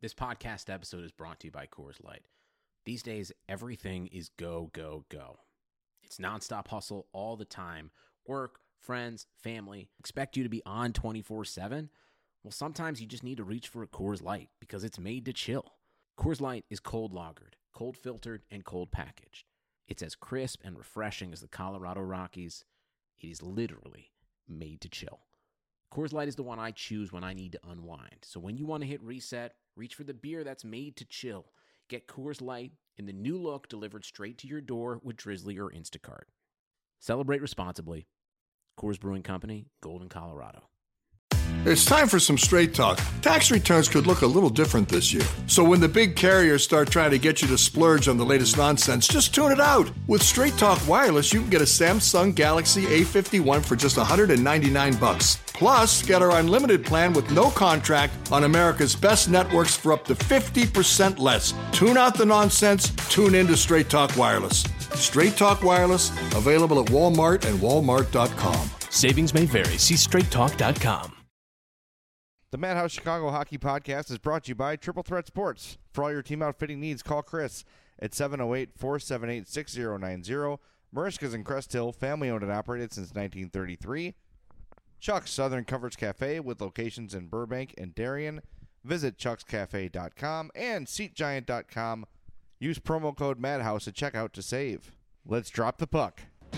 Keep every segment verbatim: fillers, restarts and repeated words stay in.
This podcast episode is brought to you by Coors Light. These days, everything is go, go, go. It's nonstop hustle all the time. Work, friends, family, expect you to be on twenty-four seven. Well, sometimes you just need to reach for a Coors Light because it's made to chill. Coors Light is cold lagered, cold filtered, and cold packaged. It's as crisp and refreshing as the Colorado Rockies. It is literally made to chill. Coors Light is the one I choose when I need to unwind. So when you want to hit reset, reach for the beer that's made to chill. Get Coors Light in the new look delivered straight to your door with Drizzly or Instacart. Celebrate responsibly. Coors Brewing Company, Golden, Colorado. It's time for some straight talk. Tax returns could look a little different this year. So when the big carriers start trying to get you to splurge on the latest nonsense, just tune it out. With Straight Talk Wireless, you can get a Samsung Galaxy A fifty-one for just one hundred ninety-nine bucks. Plus, get our unlimited plan with no contract on America's best networks for up to fifty percent less. Tune out the nonsense. Tune in to Straight Talk Wireless. Straight Talk Wireless, available at Walmart and walmart dot com. Savings may vary. See straight talk dot com. The Madhouse Chicago Hockey Podcast is brought to you by Triple Threat Sports. For all your team outfitting needs, call Chris at seven oh eight, four seven eight, six zero nine zero. Marishka's in Crest Hill, family-owned and operated since nineteen thirty-three. Chuck's Southern Comforts Cafe with locations in Burbank and Darien. Visit chucks cafe dot com and seat giant dot com. Use promo code Madhouse at checkout to save. Let's drop the puck.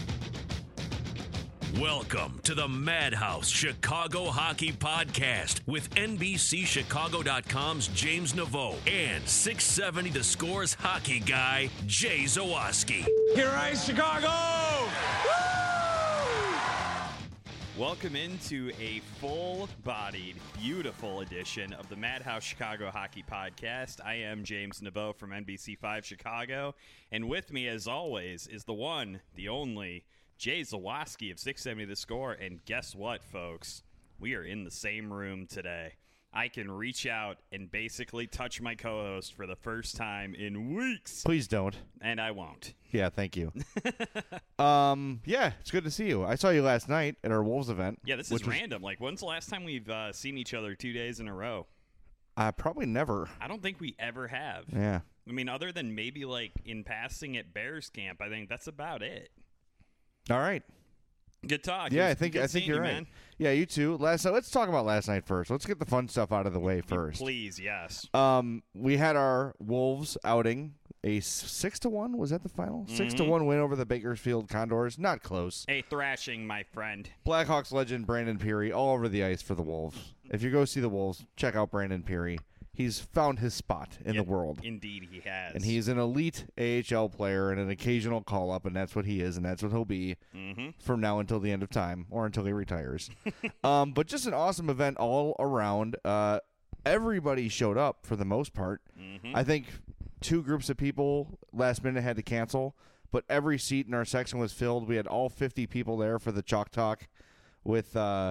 Welcome to the Madhouse Chicago Hockey Podcast with N B C Chicago dot com's James Naveau and six seventy The Score's hockey guy, Jay Zawaski. Here rise Chicago! Woo! Welcome into a full-bodied, beautiful edition of the Madhouse Chicago Hockey Podcast. I am James Naveau from N B C five Chicago, and with me, as always, is the one, the only, Jay Zawaski of six seventy The Score, and guess what, folks? We are in the same room today. I can reach out and basically touch my co-host for the first time in weeks. Please don't. And I won't. Yeah, thank you. um, yeah, it's good to see you. I saw you last night at our Wolves event. Yeah, this is random. Was, like, when's the last time we've uh, seen each other two days in a row? Uh, probably never. I don't think we ever have. Yeah. I mean, other than maybe, like, in passing at Bears camp, I think that's about it. All right. Good talk. Yeah, I think I think you're you, right. Man. Yeah, you too. Last night, let's talk about last night first. Let's get the fun stuff out of the way first. Please, yes. Um, we had our Wolves outing. A six to one was that the final? Mm-hmm. Six to one win over the Bakersfield Condors. Not close. A thrashing, my friend. Blackhawks legend Brandon Peary all over the ice for the Wolves. If you go see the Wolves, check out Brandon Peary. He's found his spot in yep, the world. Indeed, he has. And he's an elite A H L player and an occasional call-up, and that's what he is, and that's what he'll be mm-hmm. from now until the end of time, or until he retires. um, but just an awesome event all around. Uh, everybody showed up for the most part. Mm-hmm. I think two groups of people last minute had to cancel, but every seat in our section was filled. We had all fifty people there for the Chalk Talk with uh,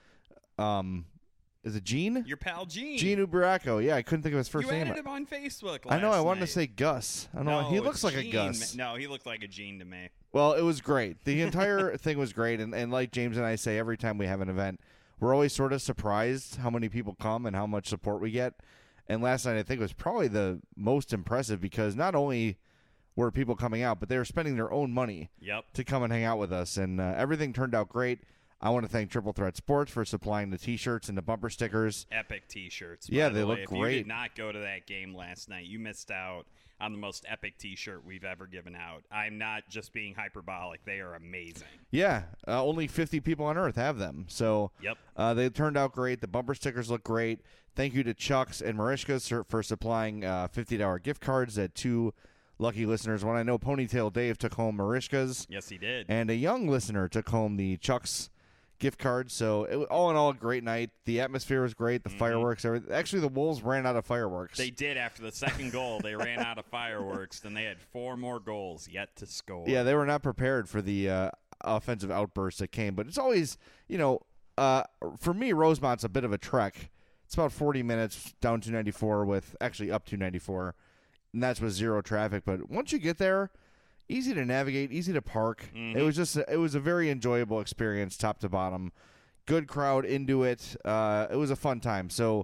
um. Is it Gene? Your pal Gene. Gene Uberaco. Yeah, I couldn't think of his first you name. You added him on Facebook last I know. I wanted night. to say Gus. I don't no, know. He looks like Gene. a Gus. No, he looked like a Gene to me. Well, it was great. The entire thing was great. And, and like James and I say every time we have an event, we're always sort of surprised how many people come and how much support we get. And last night I think was probably the most impressive because not only were people coming out, but they were spending their own money yep. to come and hang out with us. And uh, everything turned out great. I want to thank Triple Threat Sports for supplying the T-shirts and the bumper stickers. Epic T-shirts. Yeah, by they the look way. great. If you did not go to that game last night, you missed out on the most epic T-shirt we've ever given out. I'm not just being hyperbolic. They are amazing. Yeah, uh, only fifty people on Earth have them. So yep. uh, they turned out great. The bumper stickers look great. Thank you to Chuck's and Marishka's for supplying uh, fifty dollars gift cards that two lucky listeners. One I know Ponytail Dave took home Marishka's. Yes, he did. And a young listener took home the Chuck's gift card. So it, all in all, a great night. The atmosphere was great. The mm-hmm. fireworks. Everything. Actually, the Wolves ran out of fireworks. They did after the second goal. They ran out of fireworks. Then they had four more goals yet to score. Yeah, they were not prepared for the uh, offensive outbursts that came. But it's always, you know, uh, for me, Rosemont's a bit of a trek. It's about forty minutes down two ninety-four with actually up two ninety-four, and that's with zero traffic. But once you get there, easy to navigate, easy to park. Mm-hmm. It was just a, it was a very enjoyable experience, top to bottom. Good crowd into it. Uh, it was a fun time. So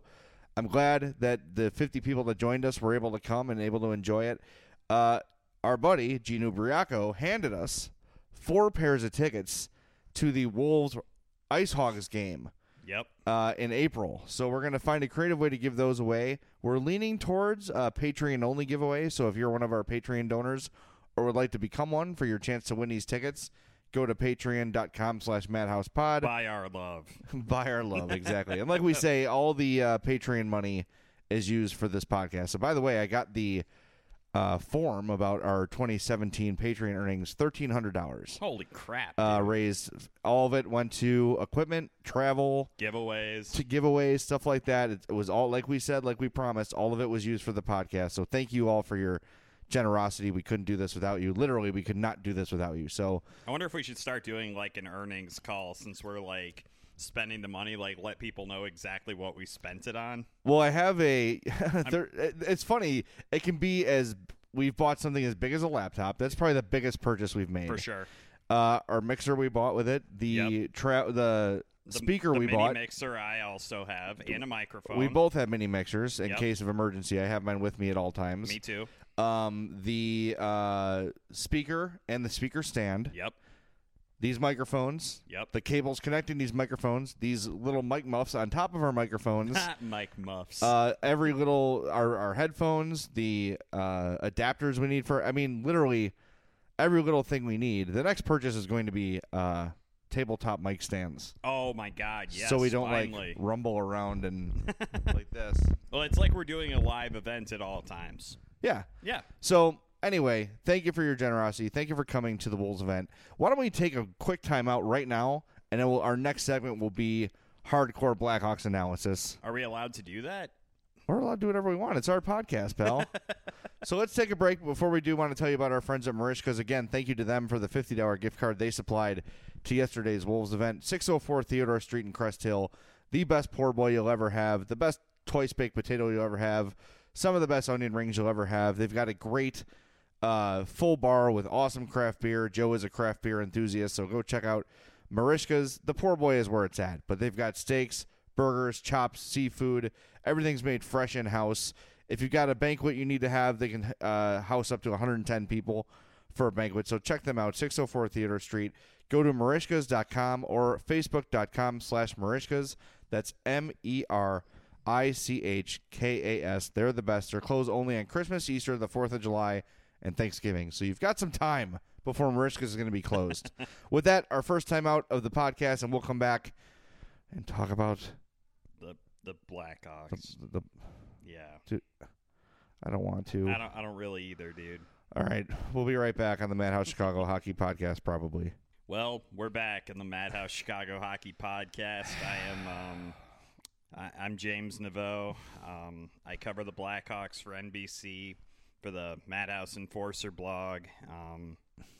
I'm glad that the fifty people that joined us were able to come and able to enjoy it. Uh, our buddy, Gino Briaco, handed us four pairs of tickets to the Wolves Ice Hogs game. Yep. Uh, in April. So we're going to find a creative way to give those away. We're leaning towards a Patreon-only giveaway. So if you're one of our Patreon donors or would like to become one for your chance to win these tickets, go to patreon.com slash madhousepod. Buy our love. Buy our love, exactly. And like we say, all the uh, Patreon money is used for this podcast. So by the way, I got the uh, form about our twenty seventeen Patreon earnings, thirteen hundred dollars. Holy crap. Uh, dude. raised. All of it went to equipment, travel, Giveaways. to giveaways, stuff like that. It, it was all, like we said, like we promised, all of it was used for the podcast. So thank you all for your generosity. We couldn't do this without you. Literally, we could not do this without you. So I wonder if we should start doing like an earnings call since we're like spending the money, like let people know exactly what we spent it on. Well, I have a. there, it's funny. It can be as we've bought something as big as a laptop. That's probably the biggest purchase we've made For sure. Uh, our mixer we bought with it. The Yep. tra- the, The- speaker the we mini bought. mixer I also have and a microphone. We both have mini mixers in Yep. case of emergency. I have mine with me at all times. Me too. Um, the uh, speaker and the speaker stand. Yep. These microphones. Yep. The cables connecting these microphones. These little mic muffs on top of our microphones. Mike Muffs. Uh, every little our our headphones, the uh, adapters we need for. I mean, literally every little thing we need. The next purchase is going to be uh, tabletop mic stands, oh my God! Yes. so we don't finally. like rumble around and like this. Well, it's like we're doing a live event at all times. Yeah. Yeah. So anyway, thank you for your generosity. Thank you for coming to the Wolves event. Why don't we take a quick time out right now, and then we'll, our next segment will be hardcore Blackhawks analysis. Are we allowed to do that? We're allowed to do whatever we want. It's our podcast, pal. So let's take a break. Before we do, want to tell you about our friends at Marishka's. Again, thank you to them for the fifty dollars gift card they supplied to yesterday's Wolves event. six oh four Theodore Street in Crest Hill. The best poor boy you'll ever have. The best twice baked potato you'll ever have. Some of the best onion rings you'll ever have. They've got a great uh, full bar with awesome craft beer. Joe is a craft beer enthusiast, so go check out Marishka's. The poor boy is where it's at, but they've got steaks, burgers, chops, seafood. Everything's made fresh in-house. If you've got a banquet you need to have, they can uh, house up to one hundred ten people for a banquet. So check them out, six oh four Theodore Street. Go to marishkas dot com or facebook.com slash marishkas. That's M E R I C H K A S. They're the best. They're closed only on Christmas, Easter, the fourth of July, and Thanksgiving. So you've got some time before Marishkas is going to be closed. With that, our first time out of the podcast, and we'll come back and talk about The the Blackhawks. the, the Yeah. Dude, I don't want to. I don't. I don't really either, dude. All right. We'll be right back on the Madhouse Chicago Hockey Podcast, probably. Well, we're back in the Madhouse Chicago Hockey Podcast. I am. Um, I, I'm James Naveau. Um, I cover the Blackhawks for N B C for the Madhouse Enforcer blog. Um,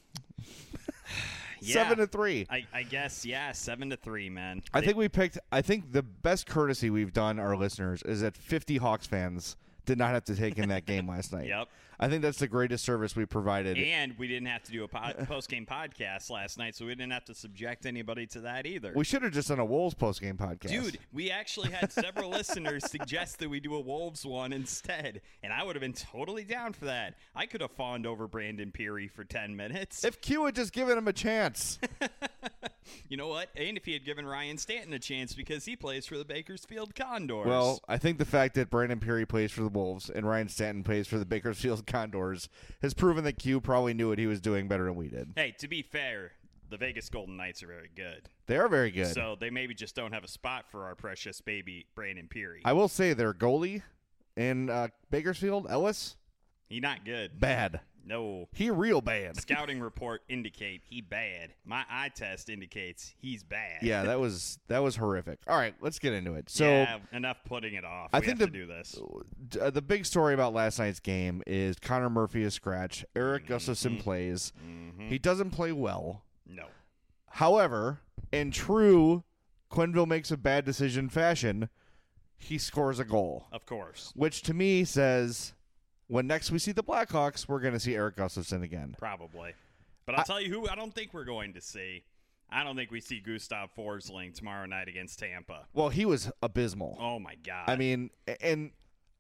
yeah, Seven to three. I, I guess, yeah, seven to three, man. I They- think we picked. I think the best courtesy we've done our listeners is that fifty Hawks fans did not have to take in that game last night. Yep. I think that's the greatest service we provided. And we didn't have to do a pod, post-game podcast last night, so we didn't have to subject anybody to that either. We should have just done a Wolves post-game podcast. Dude, we actually had several listeners suggest that we do a Wolves one instead, and I would have been totally down for that. I could have fawned over Brandon Peary for ten minutes. If Q had just given him a chance. You know what? And if he had given Ryan Stanton a chance because he plays for the Bakersfield Condors. Well, I think the fact that Brandon Peary plays for the Wolves and Ryan Stanton plays for the Bakersfield Condors has proven that Q probably knew what he was doing better than we did. hey, to be fair, the Vegas Golden Knights are very good. They are very good. So they maybe just don't have a spot for our precious baby Brandon Peary. I will say their goalie in uh, Bakersfield, Ellis, He not good. bad. No. He real bad. Scouting report indicate he bad. My eye test indicates he's bad. Yeah, that was that was horrific. All right, let's get into it. So yeah, enough putting it off. I we think have the to do this. uh, the big story about last night's game is Connor Murphy is scratch. Eric Gustafson plays. He doesn't play well. No. However, in true Quenneville makes a bad decision fashion, he scores a goal, Of course. which to me says when next we see the Blackhawks, we're going to see Eric Gustafson again. Probably. But I'll tell you who I don't think we're going to see. I don't think we see Gustav Forsling tomorrow night against Tampa. Well, he was abysmal. Oh, my God. I mean, and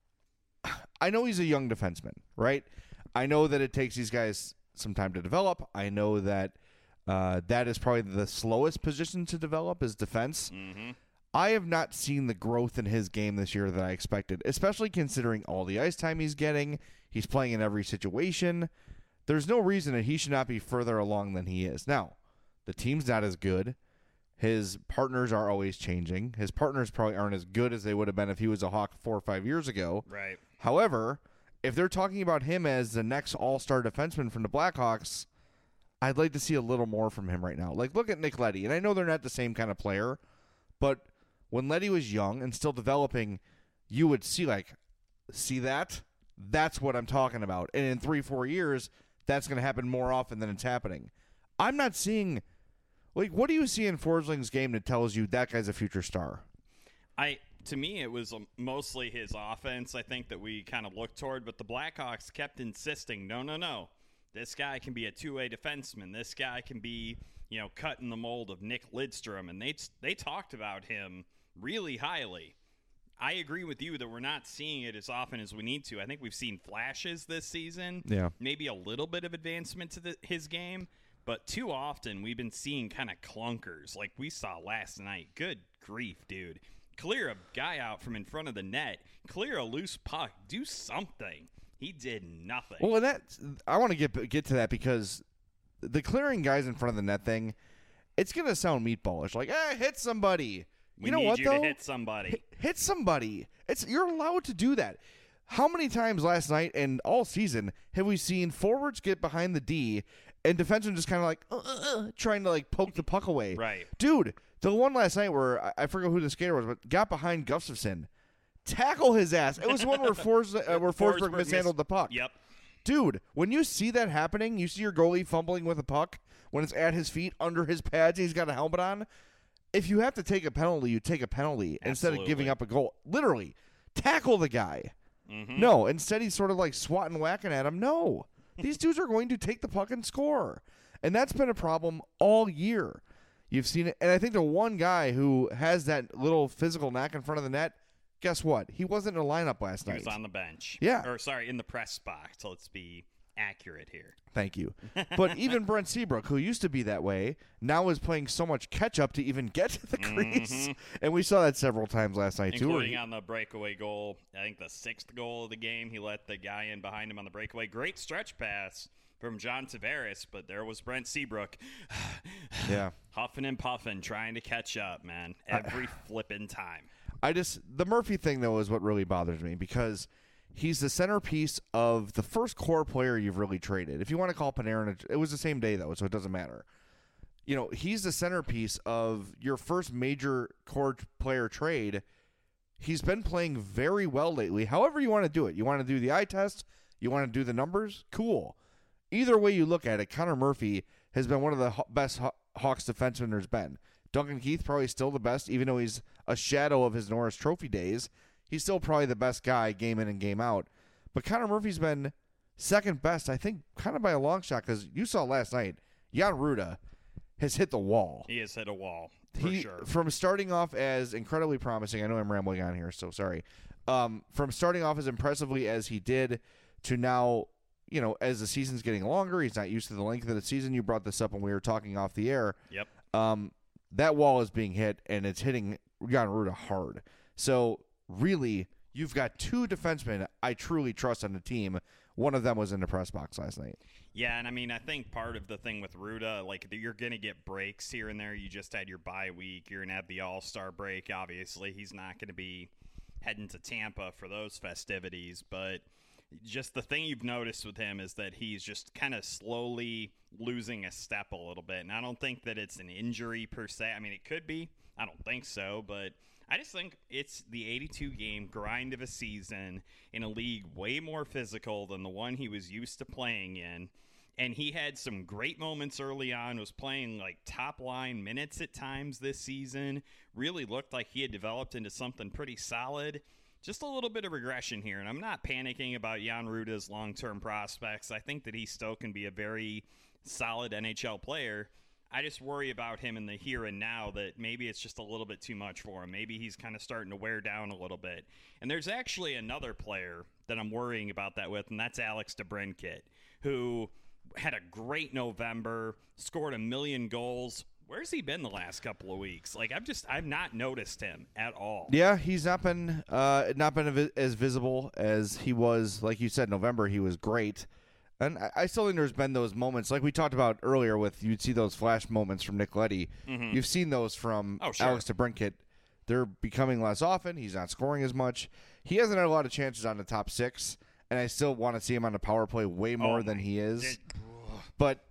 I know he's a young defenseman, right? I know that it takes these guys some time to develop. I know that uh, that is probably the slowest position to develop is defense. Mm-hmm. I have not seen the growth in his game this year that I expected, especially considering all the ice time he's getting. He's playing in every situation. There's no reason that he should not be further along than he is. Now, the team's not as good. His partners are always changing. His partners probably aren't as good as they would have been if he was a Hawk four or five years ago. Right. However, if they're talking about him as the next all-star defenseman from the Blackhawks, I'd like to see a little more from him right now. Like, look at Nick Leddy, and I know they're not the same kind of player, but when Leddy was young and still developing, you would see, like, see that? That's what I'm talking about. And in three, four years, that's going to happen more often than it's happening. I'm not seeing, like, what do you see in Forsling's game that tells you that guy's a future star? I to me, it was um, mostly his offense, I think, that we kind of looked toward. But the Blackhawks kept insisting, no, no, no. This guy can be a two-way defenseman. This guy can be, you know, cut in the mold of Nick Lidstrom. And they they talked about him really highly. I agree with you that we're not seeing it as often as we need to. I think we've seen flashes this season. Yeah. Maybe a little bit of advancement to the, his game. But too often we've been seeing kind of clunkers like we saw last night. Good grief, dude. Clear a guy out from in front of the net. Clear a loose puck. Do something. He did nothing. Well, and that I want to get get to that because the clearing guys in front of the net thing, it's going to sound meatballish. Like, eh, hit somebody. We you know need what, you though? to hit somebody. Hit, hit somebody. It's You're allowed to do that. How many times last night and all season have we seen forwards get behind the D and defensemen just kind of like uh, uh, uh, trying to like poke the puck away? Right. Dude, the one last night where I, I forget who the skater was, but got behind Gustafsson. Tackle his ass. It was one where, Fors, uh, where Forsberg, Forsberg mishandled miss- the puck. Yep. Dude, when you see that happening, you see your goalie fumbling with a puck when it's at his feet, under his pads, and he's got a helmet on. If you have to take a penalty, you take a penalty instead of Absolutely. giving up a goal. Literally, tackle the guy. Mm-hmm. No, instead he's sort of like swatting, whacking at him. No, these dudes are going to take the puck and score. And that's been a problem all year. You've seen it. And I think the one guy who has that little physical knack in front of the net, guess what? He wasn't in the lineup last He night. was on the bench. Yeah. Or, sorry, in the press box. So let's be accurate here. Thank you. But even Brent Seabrook, who used to be that way, now is playing so much catch-up to even get to the crease. Mm-hmm. And we saw that several times last night, too. Including on the breakaway goal. I think the sixth goal of the game. He let the guy in behind him on the breakaway. Great stretch pass from John Tavares, but there was Brent Seabrook. Yeah. Huffing and puffing, trying to catch up, man. Every flippin' time. I just the Murphy thing though is what really bothers me because he's the centerpiece of the first core player you've really traded. If you want to call Panarin, it was the same day though, so it doesn't matter. You know, he's the centerpiece of your first major core player trade. He's been playing very well lately. However you want to do it, you want to do the eye test, you want to do the numbers, cool. Either way you look at it, Connor Murphy has been one of the best Hawks defensemen there's been. Duncan Keith probably still the best, even though he's a shadow of his Norris Trophy days. He's still probably the best guy game in and game out. But Connor Murphy's been second best, I think, kind of by a long shot, because you saw last night, Jan Ruda has hit the wall. He has hit a wall, for he, sure. From starting off as incredibly promising, I know I'm rambling on here, so sorry. Um, from starting off as impressively as he did to now, you know, as the season's getting longer, he's not used to the length of the season. You brought this up when we were talking off the air. Yep. Um, that wall is being hit, and it's hitting Jan Ruda hard. So, really, you've got two defensemen I truly trust on the team. One of them was in the press box last night. Yeah, and I mean, I think part of the thing with Ruda, like, you're going to get breaks here and there. You just had your bye week. You're going to have the All-Star break, obviously. He's not going to be heading to Tampa for those festivities, but just the thing you've noticed with him is that he's just kind of slowly losing a step a little bit. And I don't think that it's an injury per se. I mean, it could be. I don't think so. But I just think it's the eighty-two game grind of a season in a league way more physical than the one he was used to playing in. And he had some great moments early on, was playing like top line minutes at times this season. Really looked like he had developed into something pretty solid. Just a little bit of regression here, and I'm not panicking about Jan Ruda's long-term prospects. I think that he still can be a very solid N H L player. I just worry about him in the here and now that maybe it's just a little bit too much for him. Maybe he's kind of starting to wear down a little bit. And there's actually another player that I'm worrying about that with, and that's Alex DeBrincat, who had a great November, scored a million goals. Where's he been the last couple of weeks? Like, I've just I've not noticed him at all. Yeah, he's not been uh, not been as visible as he was. Like you said, November he was great, and I, I still think there's been those moments, like we talked about earlier. With you'd see those flash moments from Nick Leddy. Mm-hmm. You've seen those from oh, sure. Alex DeBrincat. They're becoming less often. He's not scoring as much. He hasn't had a lot of chances on the top six, and I still want to see him on the power play way more oh than he is. It, but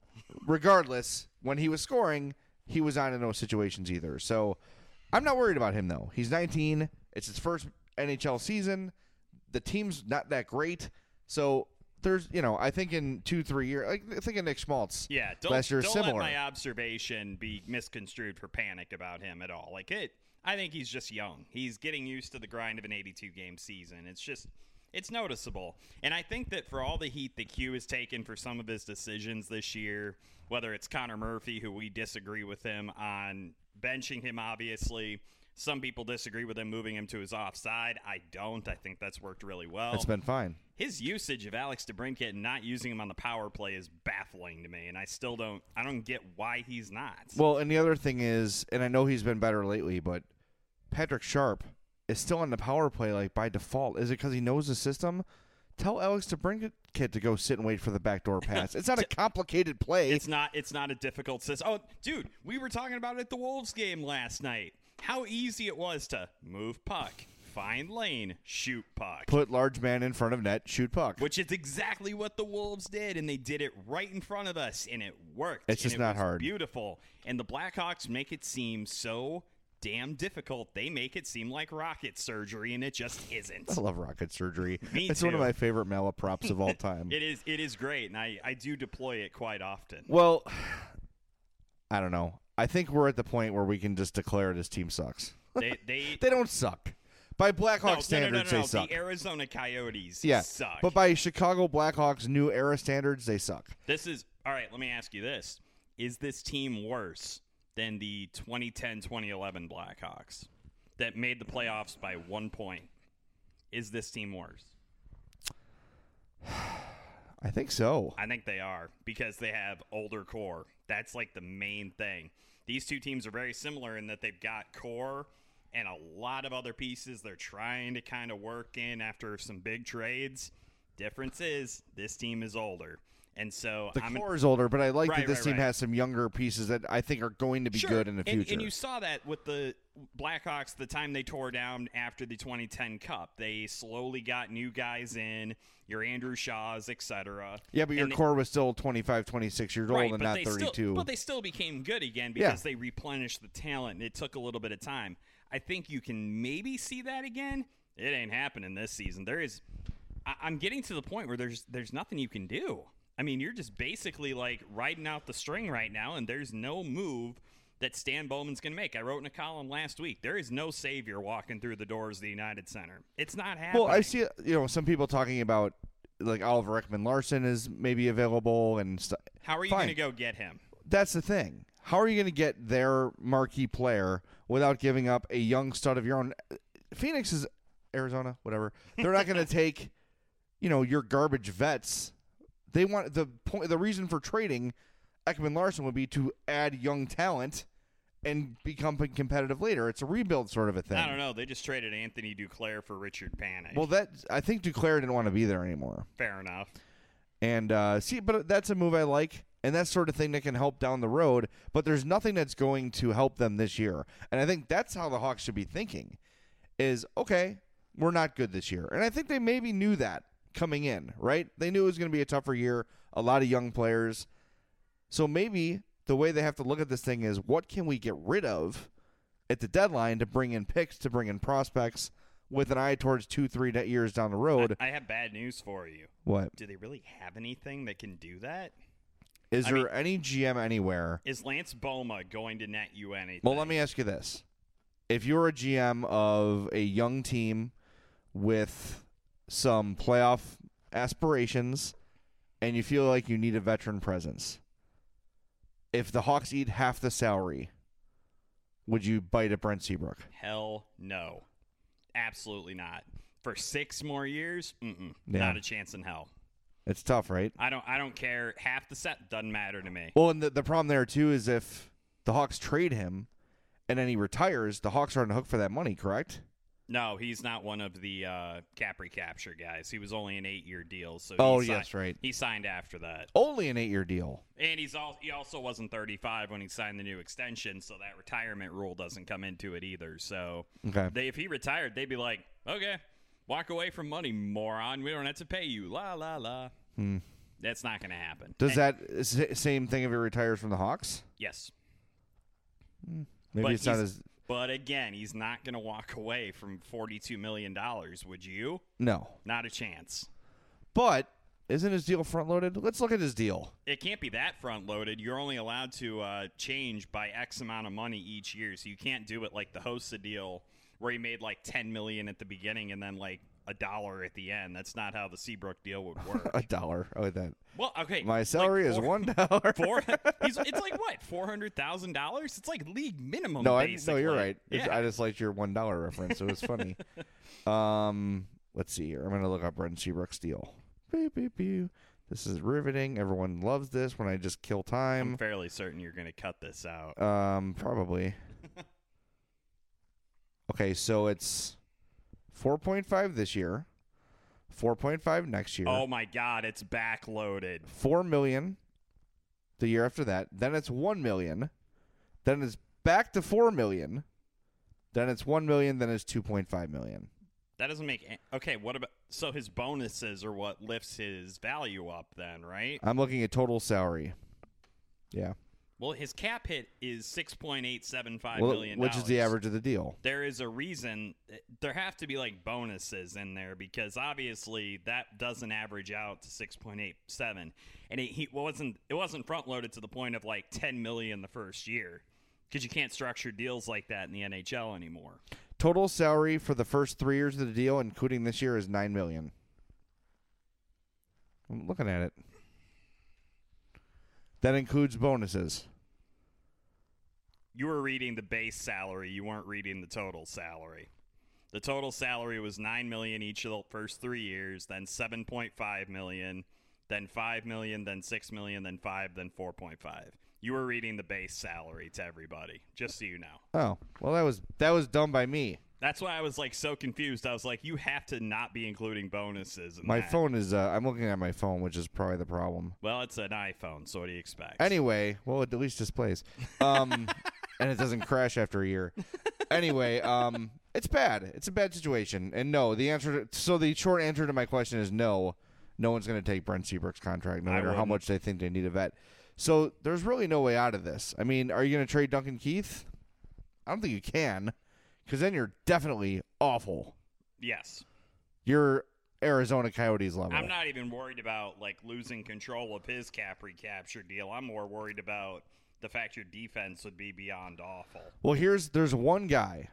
regardless, when he was scoring, he was not in those situations either. So I'm not worried about him, though. He's nineteen. It's his first N H L season. The team's not that great. So there's, you know, I think in two, three years, like, I think of Nick Schmaltz. Yeah, don't, last year don't similar. let my observation be misconstrued for panic about him at all. Like, it, I think he's just young. He's getting used to the grind of an eighty-two game season. It's just, it's noticeable. And I think that for all the heat that Q has taken for some of his decisions this year, whether it's Connor Murphy, who we disagree with him on benching him, obviously. Some people disagree with him moving him to his offside. I don't. I think that's worked really well. It's been fine. His usage of Alex DeBrincat and not using him on the power play is baffling to me, and I still don't I don't get why he's not. Well, and the other thing is, and I know he's been better lately, but Patrick Sharp is still on the power play like by default. Is it because he knows the system? Tell Alex DeBrincat to go sit and wait for the backdoor pass. It's not a complicated play. It's not It's not a difficult system. Oh, dude, we were talking about it at the Wolves game last night. How easy it was to move puck, find lane, shoot puck. Put large man in front of net, shoot puck. Which is exactly what the Wolves did, and they did it right in front of us, and it worked. It's just and it not was hard. Beautiful. And the Blackhawks make it seem so damn difficult. They make it seem like rocket surgery, and it just isn't. I love rocket surgery. Me it's too. one of my favorite malaprops of all time. It is It is great, and I, I do deploy it quite often. Well, I don't know. I think we're at the point where we can just declare this team sucks. They they, They don't suck. By Blackhawks no, standards, no, no, no, no. they suck. The Arizona Coyotes yeah, suck. but by Chicago Blackhawks new era standards, they suck. This is all right. Let me ask you this: is this team worse than the twenty ten twenty eleven Blackhawks that made the playoffs by one point? Is this team worse? I think so. I think they are because they have older core. That's like the main thing. These two teams are very similar in that they've got core and a lot of other pieces they're trying to kind of work in after some big trades. Difference is this team is older. And so the I'm core is older, but I like Right, that this right, team right. has some younger pieces that I think are going to be Sure. good in the And- future. And you saw that with the Blackhawks the time they tore down after the twenty ten Cup. They slowly got new guys in, your Andrew Shaws, et cetera. yeah, but your And they- core was still twenty-five, twenty-six years old right, and but not they thirty-two. Still, but they still became good again Yeah. because they replenished the talent, and it took a little bit of time. I think you can maybe see that again. It ain't happening this season. There is, I, I'm getting to the point where there's there's nothing you can do. I mean, you're just basically like riding out the string right now, and there's no move that Stan Bowman's going to make. I wrote in a column last week, there is no savior walking through the doors of the United Center. It's not happening. Well, I see, you know, some people talking about like Oliver Ekman-Larsson is maybe available and stuff. How are you Fine. going to go get him? That's the thing. How are you going to get their marquee player without giving up a young stud of your own? Phoenix is Arizona, whatever. They're not going to take, you know, your garbage vets. They want the point. The reason for trading Ekman-Larsson would be to add young talent and become competitive later. It's a rebuild sort of a thing. I don't know. They just traded Anthony Duclair for Richard Panik. Well, that I think Duclair didn't want to be there anymore. Fair enough. And uh, see, but that's a move I like, and that sort of thing that can help down the road. But there's nothing that's going to help them this year, and I think that's how the Hawks should be thinking: is okay, we're not good this year, and I think they maybe knew that coming in, right? They knew it was going to be a tougher year, a lot of young players, so maybe the way they have to look at this thing is what can we get rid of at the deadline to bring in picks, to bring in prospects, with an eye towards two, three years down the road. I, I have bad news for you. What? Do they really have anything that can do that? Is I there mean- any G M anywhere? Is Lance Boma going to net you anything? Well, let me ask you this. If you're a G M of a young team with some playoff aspirations and you feel like you need a veteran presence, if the Hawks eat half the salary, would you bite at Brent Seabrook? Hell no. Absolutely not. For six more years, mm-mm, Yeah. not a chance in hell. It's tough, right? I don't I don't care. Half the set doesn't matter to me. Well, and the, the problem there, too, is if the Hawks trade him and then he retires, the Hawks are on the hook for that money, correct? No, he's not one of the uh, cap recapture guys. He was only an eight-year deal. So Oh, he yes, signed, right. He signed after that. Only an eight-year deal. And he's all, he also wasn't thirty-five when he signed the new extension, so that retirement rule doesn't come into it either. So Okay. they, if he retired, they'd be like, okay, walk away from money, moron. We don't have to pay you. La, la, la. Hmm. That's not going to happen. Does And- that s- same thing if he retires from the Hawks? Yes. Maybe But it's not he's- as... But again, he's not going to walk away from forty-two million dollars, would you? No. Not a chance. But isn't his deal front-loaded? Let's look at his deal. It can't be that front-loaded. You're only allowed to uh, change by X amount of money each year, so you can't do it like the Hossa deal where he made like ten million dollars at the beginning and then like a dollar at the end. That's not how the Seabrook deal would work. A dollar. Oh, that. Well, okay. My like salary is four- one dollar. Four, he's, it's like what, four hundred thousand dollars? It's like league minimum. No, I, basically. no, you're right. It's- Yeah. I just liked your one dollar reference. It was funny. um, let's see here. I'm gonna look up Brent Seabrook's deal. Beep, beep, beep. This is riveting. Everyone loves this when I just kill I'm time. fairly certain you're going to cut this out. Um, probably. Okay, so it's four point five this year, four point five next year, Oh my God, it's backloaded. four million the year after that. Then it's one million. Then it's back to four million. Then it's one million. Then it's two point five million. That doesn't make any, okay. What about so his bonuses are what lifts his value up then, right? I'm looking at total salary. Yeah. Well, his cap hit is six point eight seven five Well, million, which is the average of the deal. There is a reason. There have to be like bonuses in there because obviously that doesn't average out to six point eight seven, and it he wasn't it wasn't front loaded to the point of like ten million the first year because you can't structure deals like that in the N H L anymore. Total salary for the first three years of the deal, including this year, is nine million. I'm looking at it. That includes bonuses. You were reading the base salary. You weren't reading the total salary. The total salary was nine million dollars each of the first three years, then seven point five million dollars, then five million dollars, then six million dollars, then five, then four point five. You were reading the base salary to everybody, just so you know. Oh, well, that was that was done by me. That's why I was like so confused. I was like, you have to not be including bonuses in My that. phone is. Uh, I'm looking at my phone, which is probably the problem. Well, it's an iPhone, so what do you expect? Anyway, well, it at least displays, um, and it doesn't crash after a year. Anyway, um, it's bad. It's a bad situation. And no, the answer. To, so the short answer to my question is no. No one's going to take Brent Seabrook's contract, no I matter how wouldn't. much they think they need a vet. So there's really no way out of this. I mean, are you going to trade Duncan Keith? I don't think you can, because then you're definitely awful. Yes. You're Arizona Coyotes level. I'm not even worried about like losing control of his cap recapture deal. I'm more worried about the fact your defense would be beyond awful. Well, here's there's one guy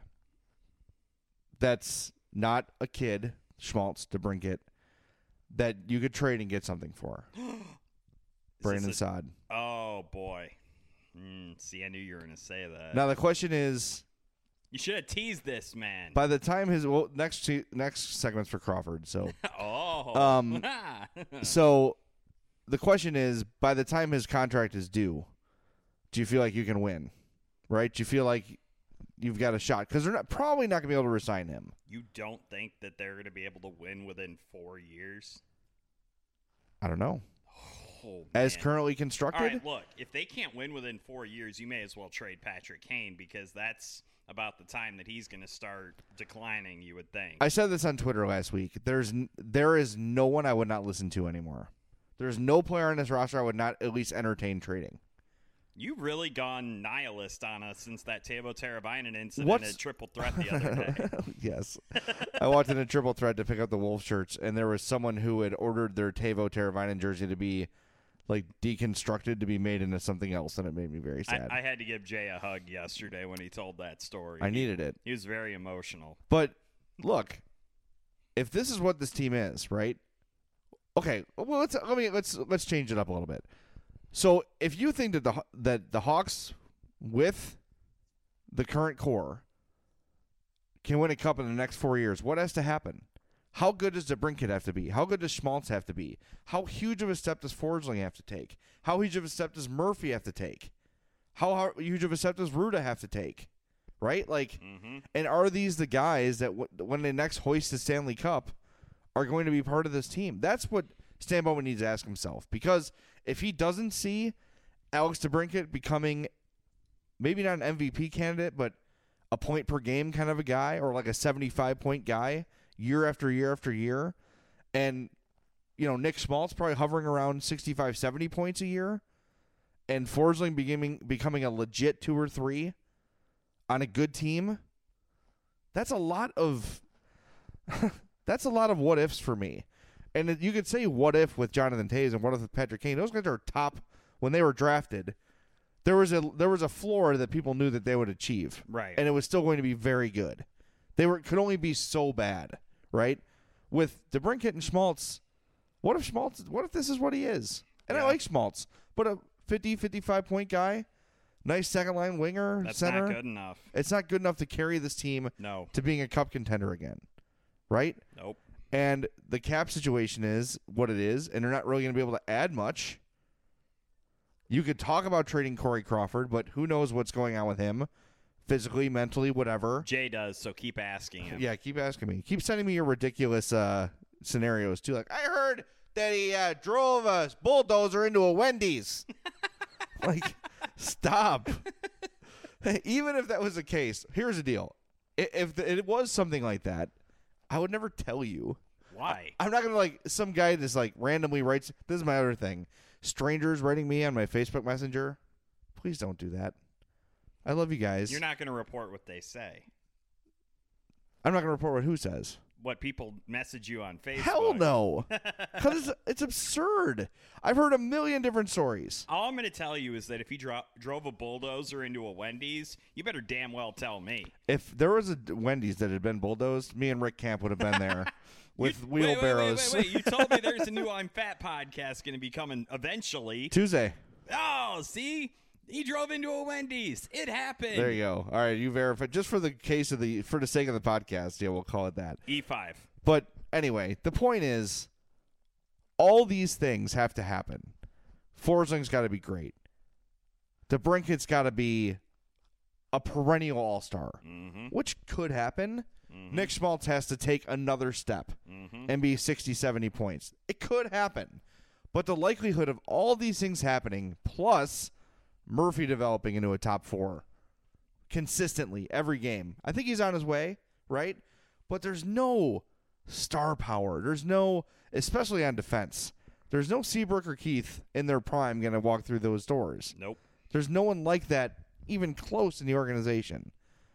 that's not a kid, Schmaltz, DeBrincat, that you could trade and get something for. Brandon a- Saad. Oh boy. Mm, see, I knew you were going to say that. Now the question is, You should have teased this, man. by the time his well next se- next segment's for Crawford, so oh. Um, so the question is, by the time his contract is due, do you feel like you can win? Right? Do you feel like you've got a shot? Because they're not, probably not going to be able to resign him. You don't think that they're going to be able to win within four years? I don't know. Oh, As man. currently All constructed, right, look, if they can't win within four years, you may as well trade Patrick Kane because that's about the time that he's going to start declining, you would think. I said this on Twitter last week. There's n- there is no one I would not listen to anymore. There's no player on this roster I would not at least entertain trading. You've really gone nihilist on us since that Teuvo Teravainen incident What's- at Triple Threat the other day. Yes. I walked in a triple threat to pick up the Wolf shirts, and there was someone who had ordered their Teuvo Teravainen jersey to be like deconstructed to be made into something else, and it made me very sad. I, I had to give Jay a hug yesterday when he told that story. I He- needed it. He was very emotional. But look, if this is what this team is, right? Okay, well let's let me let's let's change it up a little bit. So if you think that the that the Hawks with the current core can win a cup in the next four years, what has to happen? How good does DeBrincat have to be? How good does Schmaltz have to be? How huge of a step does Forsling have to take? How huge of a step does Murphy have to take? How, how huge of a step does Ruda have to take? Right? Like, mm-hmm. And are these the guys that w- when they next hoist the Stanley Cup are going to be part of this team? That's what Stan Bowman needs to ask himself. Because if he doesn't see Alex DeBrincat becoming maybe not an M V P candidate, but a point per game kind of a guy, or like a seventy-five point guy year after year after year, and you know Nick Schmaltz probably hovering around sixty-five, seventy points a year, and Forsling becoming becoming a legit two or three on a good team, that's a lot of that's a lot of what ifs for me. And you could say what if with Jonathan Toews and what if with Patrick Kane. Those guys are top when they were drafted. There was a there was a floor that people knew that they would achieve, right? And it was still going to be very good. They were could only be so bad, right? With DeBrincat and Schmaltz, what if Schmaltz? What if this is what he is? And yeah. I like Schmaltz, but a fifty, fifty-five point guy, nice second line winger, That's center. not good enough. It's not good enough to carry this team no. to being a cup contender again, right? Nope. And the cap situation is what it is, and they're not really going to be able to add much. You could talk about trading Corey Crawford, but who knows what's going on with him, physically, mentally, whatever. Jay does, so keep asking him. Yeah, keep asking me. Keep sending me your ridiculous uh, scenarios, too. Like, I heard that he uh, drove a bulldozer into a Wendy's. Like, stop. Even if that was the case, here's the deal. If it was something like that, I would never tell you. Why? I'm not going to, like, some guy just, like, randomly writes. This is my other thing. Strangers writing me on my Facebook Messenger. Please don't do that. I love you guys. You're not going to report what they say. I'm not going to report what who says. What people message you on Facebook. Hell no. Because it's, it's absurd. I've heard a million different stories. All I'm going to tell you is that if he dro- drove a bulldozer into a Wendy's, you better damn well tell me. If there was a Wendy's that had been bulldozed, me and Rick Camp would have been there with you, wheelbarrows. Wait, wait, wait, wait, wait. You told me there's a new I'm Fat podcast going to be coming eventually. Tuesday. Oh, see? He drove into a Wendy's. It happened. There you go. All right, you verify. Just for the case of the, for the sake of the podcast, yeah, we'll call it that. E five. But anyway, the point is, all these things have to happen. Forsling's got to be great. DeBrincat's got to be a perennial all-star, mm-hmm. which could happen. Mm-hmm. Nick Schmaltz has to take another step mm-hmm. and be sixty, seventy points. It could happen. But the likelihood of all these things happening, plus Murphy developing into a top four consistently every game, I think he's on his way, right? But there's no star power. There's no, especially on defense, there's no Seabrook or Keith in their prime going to walk through those doors. Nope. There's no one like that even close in the organization.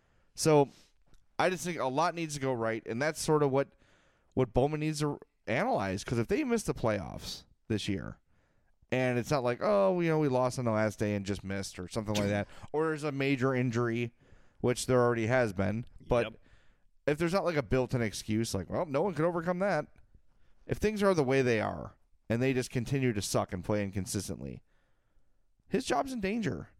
So I just think a lot needs to go right, and that's sort of what, what Bowman needs to analyze, because if they miss the playoffs this year, and it's not like, oh, you know, we lost on the last day and just missed or something like that, or there's a major injury, which there already has been, but yep. if there's not like a built-in excuse, like, well, no one could overcome that. If things are the way they are, and they just continue to suck and play inconsistently, his job's in danger.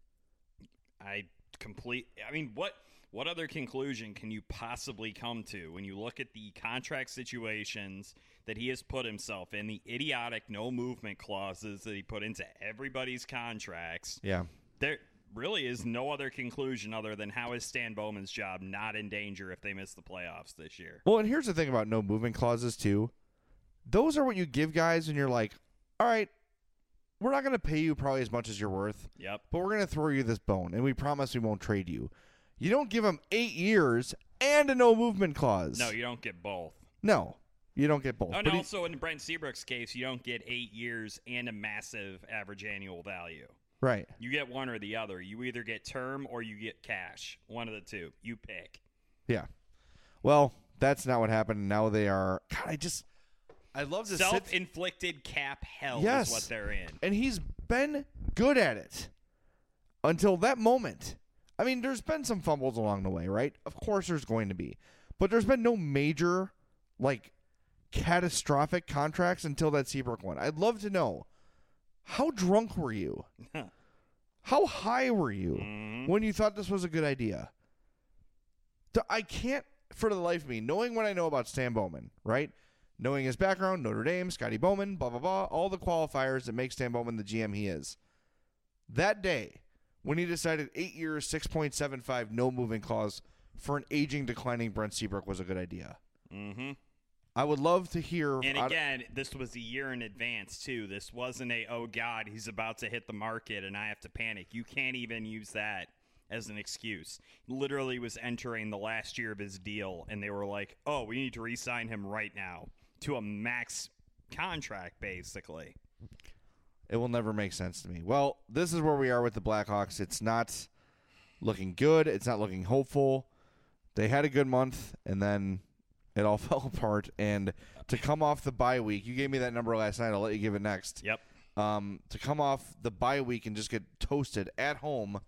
I complete. I mean, what what other conclusion can you possibly come to when you look at the contract situations that he has put himself in, the idiotic no movement clauses that he put into everybody's contracts? Yeah. There really is no other conclusion other than how is Stan Bowman's job not in danger if they miss the playoffs this year? Well, and here's the thing about no movement clauses, too. Those are what you give guys when you're like, all right, we're not going to pay you probably as much as you're worth. Yep. But we're going to throw you this bone, and we promise we won't trade you. You don't give them eight years and a no movement clause. No, you don't get both. No, you don't get both. Oh, and But he- also in Brent Seabrook's case, you don't get eight years and a massive average annual value. right. You get one or the other. You either get term or you get cash. One of the two. You pick. Yeah. Well, that's not what happened. Now they are. God, I just. I love to sit. Self-inflicted cap hell Yes. is what they're in. And he's been good at it until that moment. I mean, there's been some fumbles along the way, right? Of course there's going to be. But there's been no major, like, catastrophic contracts until that Seabrook one. I'd love to know How drunk were you? How high were you Mm-hmm. when you thought this was a good idea? Th- I can't, for the life of me, knowing what I know about Stan Bowman, right? Knowing his background, Notre Dame, Scotty Bowman, blah, blah, blah, all the qualifiers that make Stan Bowman the G M he is. That day, when he decided eight years, six point seven five, no moving clause for an aging, declining Brent Seabrook was a good idea. Mm-hmm. I would love to hear. And I- again, this was a year in advance, too. This wasn't a, oh, God, he's about to hit the market and I have to panic. You can't even use that as an excuse. He literally was entering the last year of his deal, and they were like, oh, we need to re-sign him right now to a max contract, basically. It will never make sense to me. Well, this is where we are with the Blackhawks. It's not looking good. It's not looking hopeful. They had a good month, and then it all fell apart. And to come off the bye week, you gave me that number last night. I'll let you give it next. Yep. Um, to come off the bye week and just get toasted at home,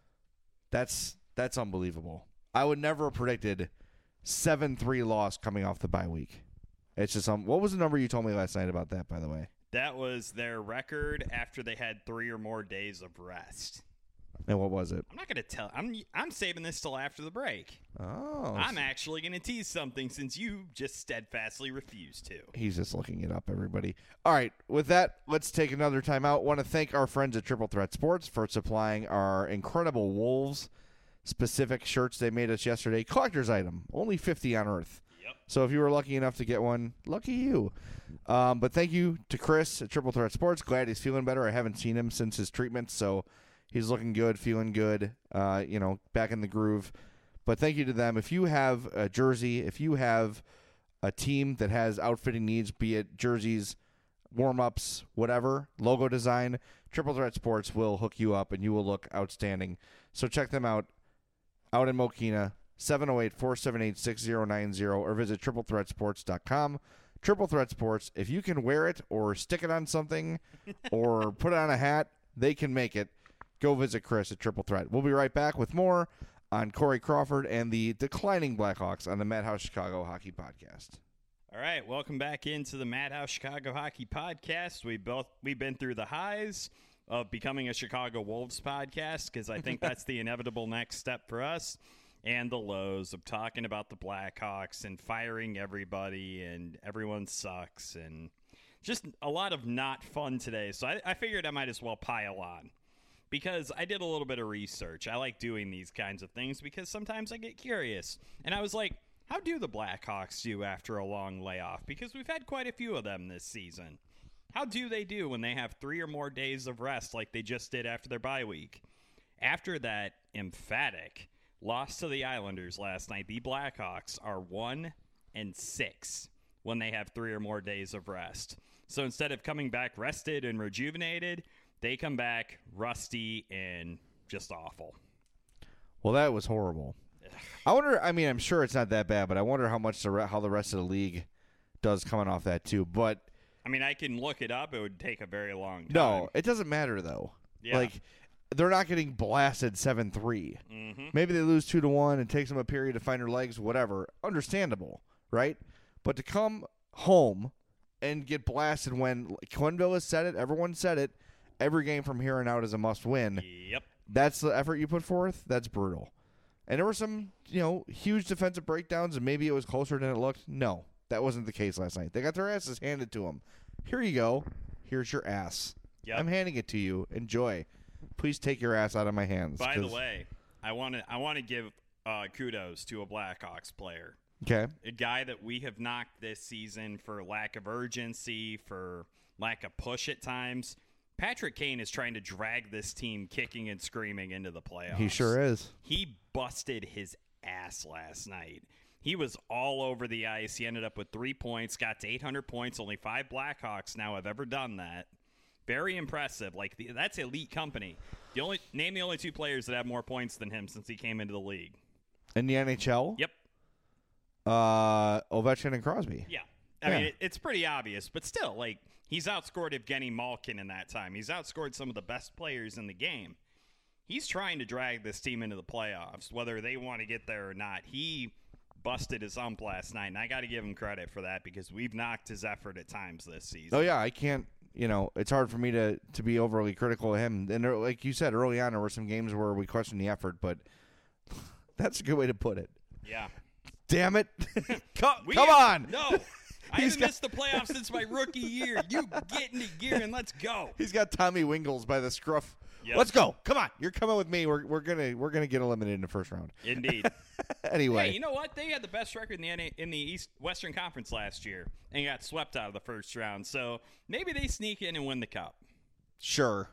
that's that's unbelievable. I would never have predicted seven three loss coming off the bye week. It's just um. What was the number you told me last night about that, by the way? That was their record after they had three or more days of rest. And what was it? I'm not going to tell. I'm I'm saving this till after the break. Oh. I'm actually going to tease something since you just steadfastly refused to. He's just looking it up, everybody. All right, with that, let's take another time out. Want to thank our friends at Triple Threat Sports for supplying our incredible Wolves-specific shirts they made us yesterday. Collector's item, only fifty on Earth. Yep. So if you were lucky enough to get one, lucky you. Um, but thank you to Chris at Triple Threat Sports. Glad he's feeling better. I haven't seen him since his treatment, so he's looking good, feeling good, uh, you know, back in the groove. But thank you to them. If you have a jersey, if you have a team that has outfitting needs, be it jerseys, warm-ups, whatever, logo design, Triple Threat Sports will hook you up, and you will look outstanding. So check them out out in Mokina, seven oh eight, four seven eight, six oh nine oh, or visit triple threat sports dot com. Triple Threat Sports, if you can wear it or stick it on something or put it on a hat, they can make it. Go visit Chris at Triple Threat. We'll be right back with more on Corey Crawford and the declining Blackhawks on the Madhouse Chicago Hockey Podcast. All right, welcome back into the Madhouse Chicago Hockey Podcast. We both we've been through the highs of becoming a Chicago Wolves podcast because I think that's the inevitable next step for us, and the lows of talking about the Blackhawks and firing everybody and everyone sucks and just a lot of not fun today. So I, I figured I might as well pile on because I did a little bit of research. I like doing these kinds of things because sometimes I get curious, and I was like, how do the Blackhawks do after a long layoff? Because we've had quite a few of them this season. How do they do when they have three or more days of rest like they just did after their bye week? After that emphatic loss to the Islanders last night, the Blackhawks are one and six when they have three or more days of rest. So instead of coming back rested and rejuvenated, they come back rusty and just awful. Well, that was horrible. I wonder, I mean, I'm sure it's not that bad, but I wonder how much the re- how the rest of the league does coming off that too. But I mean, I can look it up. It would take a very long time. no, it doesn't matter though. Yeah. Like, they're not getting blasted seven three. Mm-hmm. Maybe they lose two to one and takes them a period to find their legs, whatever. Understandable, right? But to come home and get blasted when Quenneville has said it, everyone said it, every game from here on out is a must win. Yep. That's the effort you put forth. That's brutal. And there were some, you know, huge defensive breakdowns, and maybe it was closer than it looked. No, that wasn't the case last night. They got their asses handed to them. Here you go. Here's your ass. Yep. I'm handing it to you. Enjoy. Please take your ass out of my hands. By the 'cause- way, I want to I want to give uh, kudos to a Blackhawks player, Okay. a guy that we have knocked this season for lack of urgency, for lack of push at times. Patrick Kane is trying to drag this team kicking and screaming into the playoffs. He sure is. He busted his ass last night. He was all over the ice. He ended up with three points, got to eight hundred points. Only five Blackhawks now have ever done that. Very impressive. Like the, that's elite company. The only name the only two players that have more points than him since he came into the league. In the N H L? Yep. Uh, Ovechkin and Crosby. Yeah. I Yeah. mean, it, it's pretty obvious, but still, like, he's outscored Evgeny Malkin in that time. He's outscored some of the best players in the game. He's trying to drag this team into the playoffs, whether they want to get there or not. He busted his ump last night, and I got to give him credit for that because we've knocked his effort at times this season. Oh, yeah. I can't, you know, it's hard for me to, to be overly critical of him. And there, like you said early on, there were some games where we questioned the effort, but that's a good way to put it. Yeah. Damn it. come We come have- on. No. I He's haven't got- missed the playoffs since my rookie year. You get into gear and let's go. He's got Tommy Wingles by the scruff. Yep. Let's go. Come on. You're coming with me. We're we're gonna we're gonna get eliminated in the first round. Indeed. Anyway. Hey, you know what? They had the best record in the N A in the East Western Conference last year and got swept out of the first round. So maybe they sneak in and win the cup. Sure.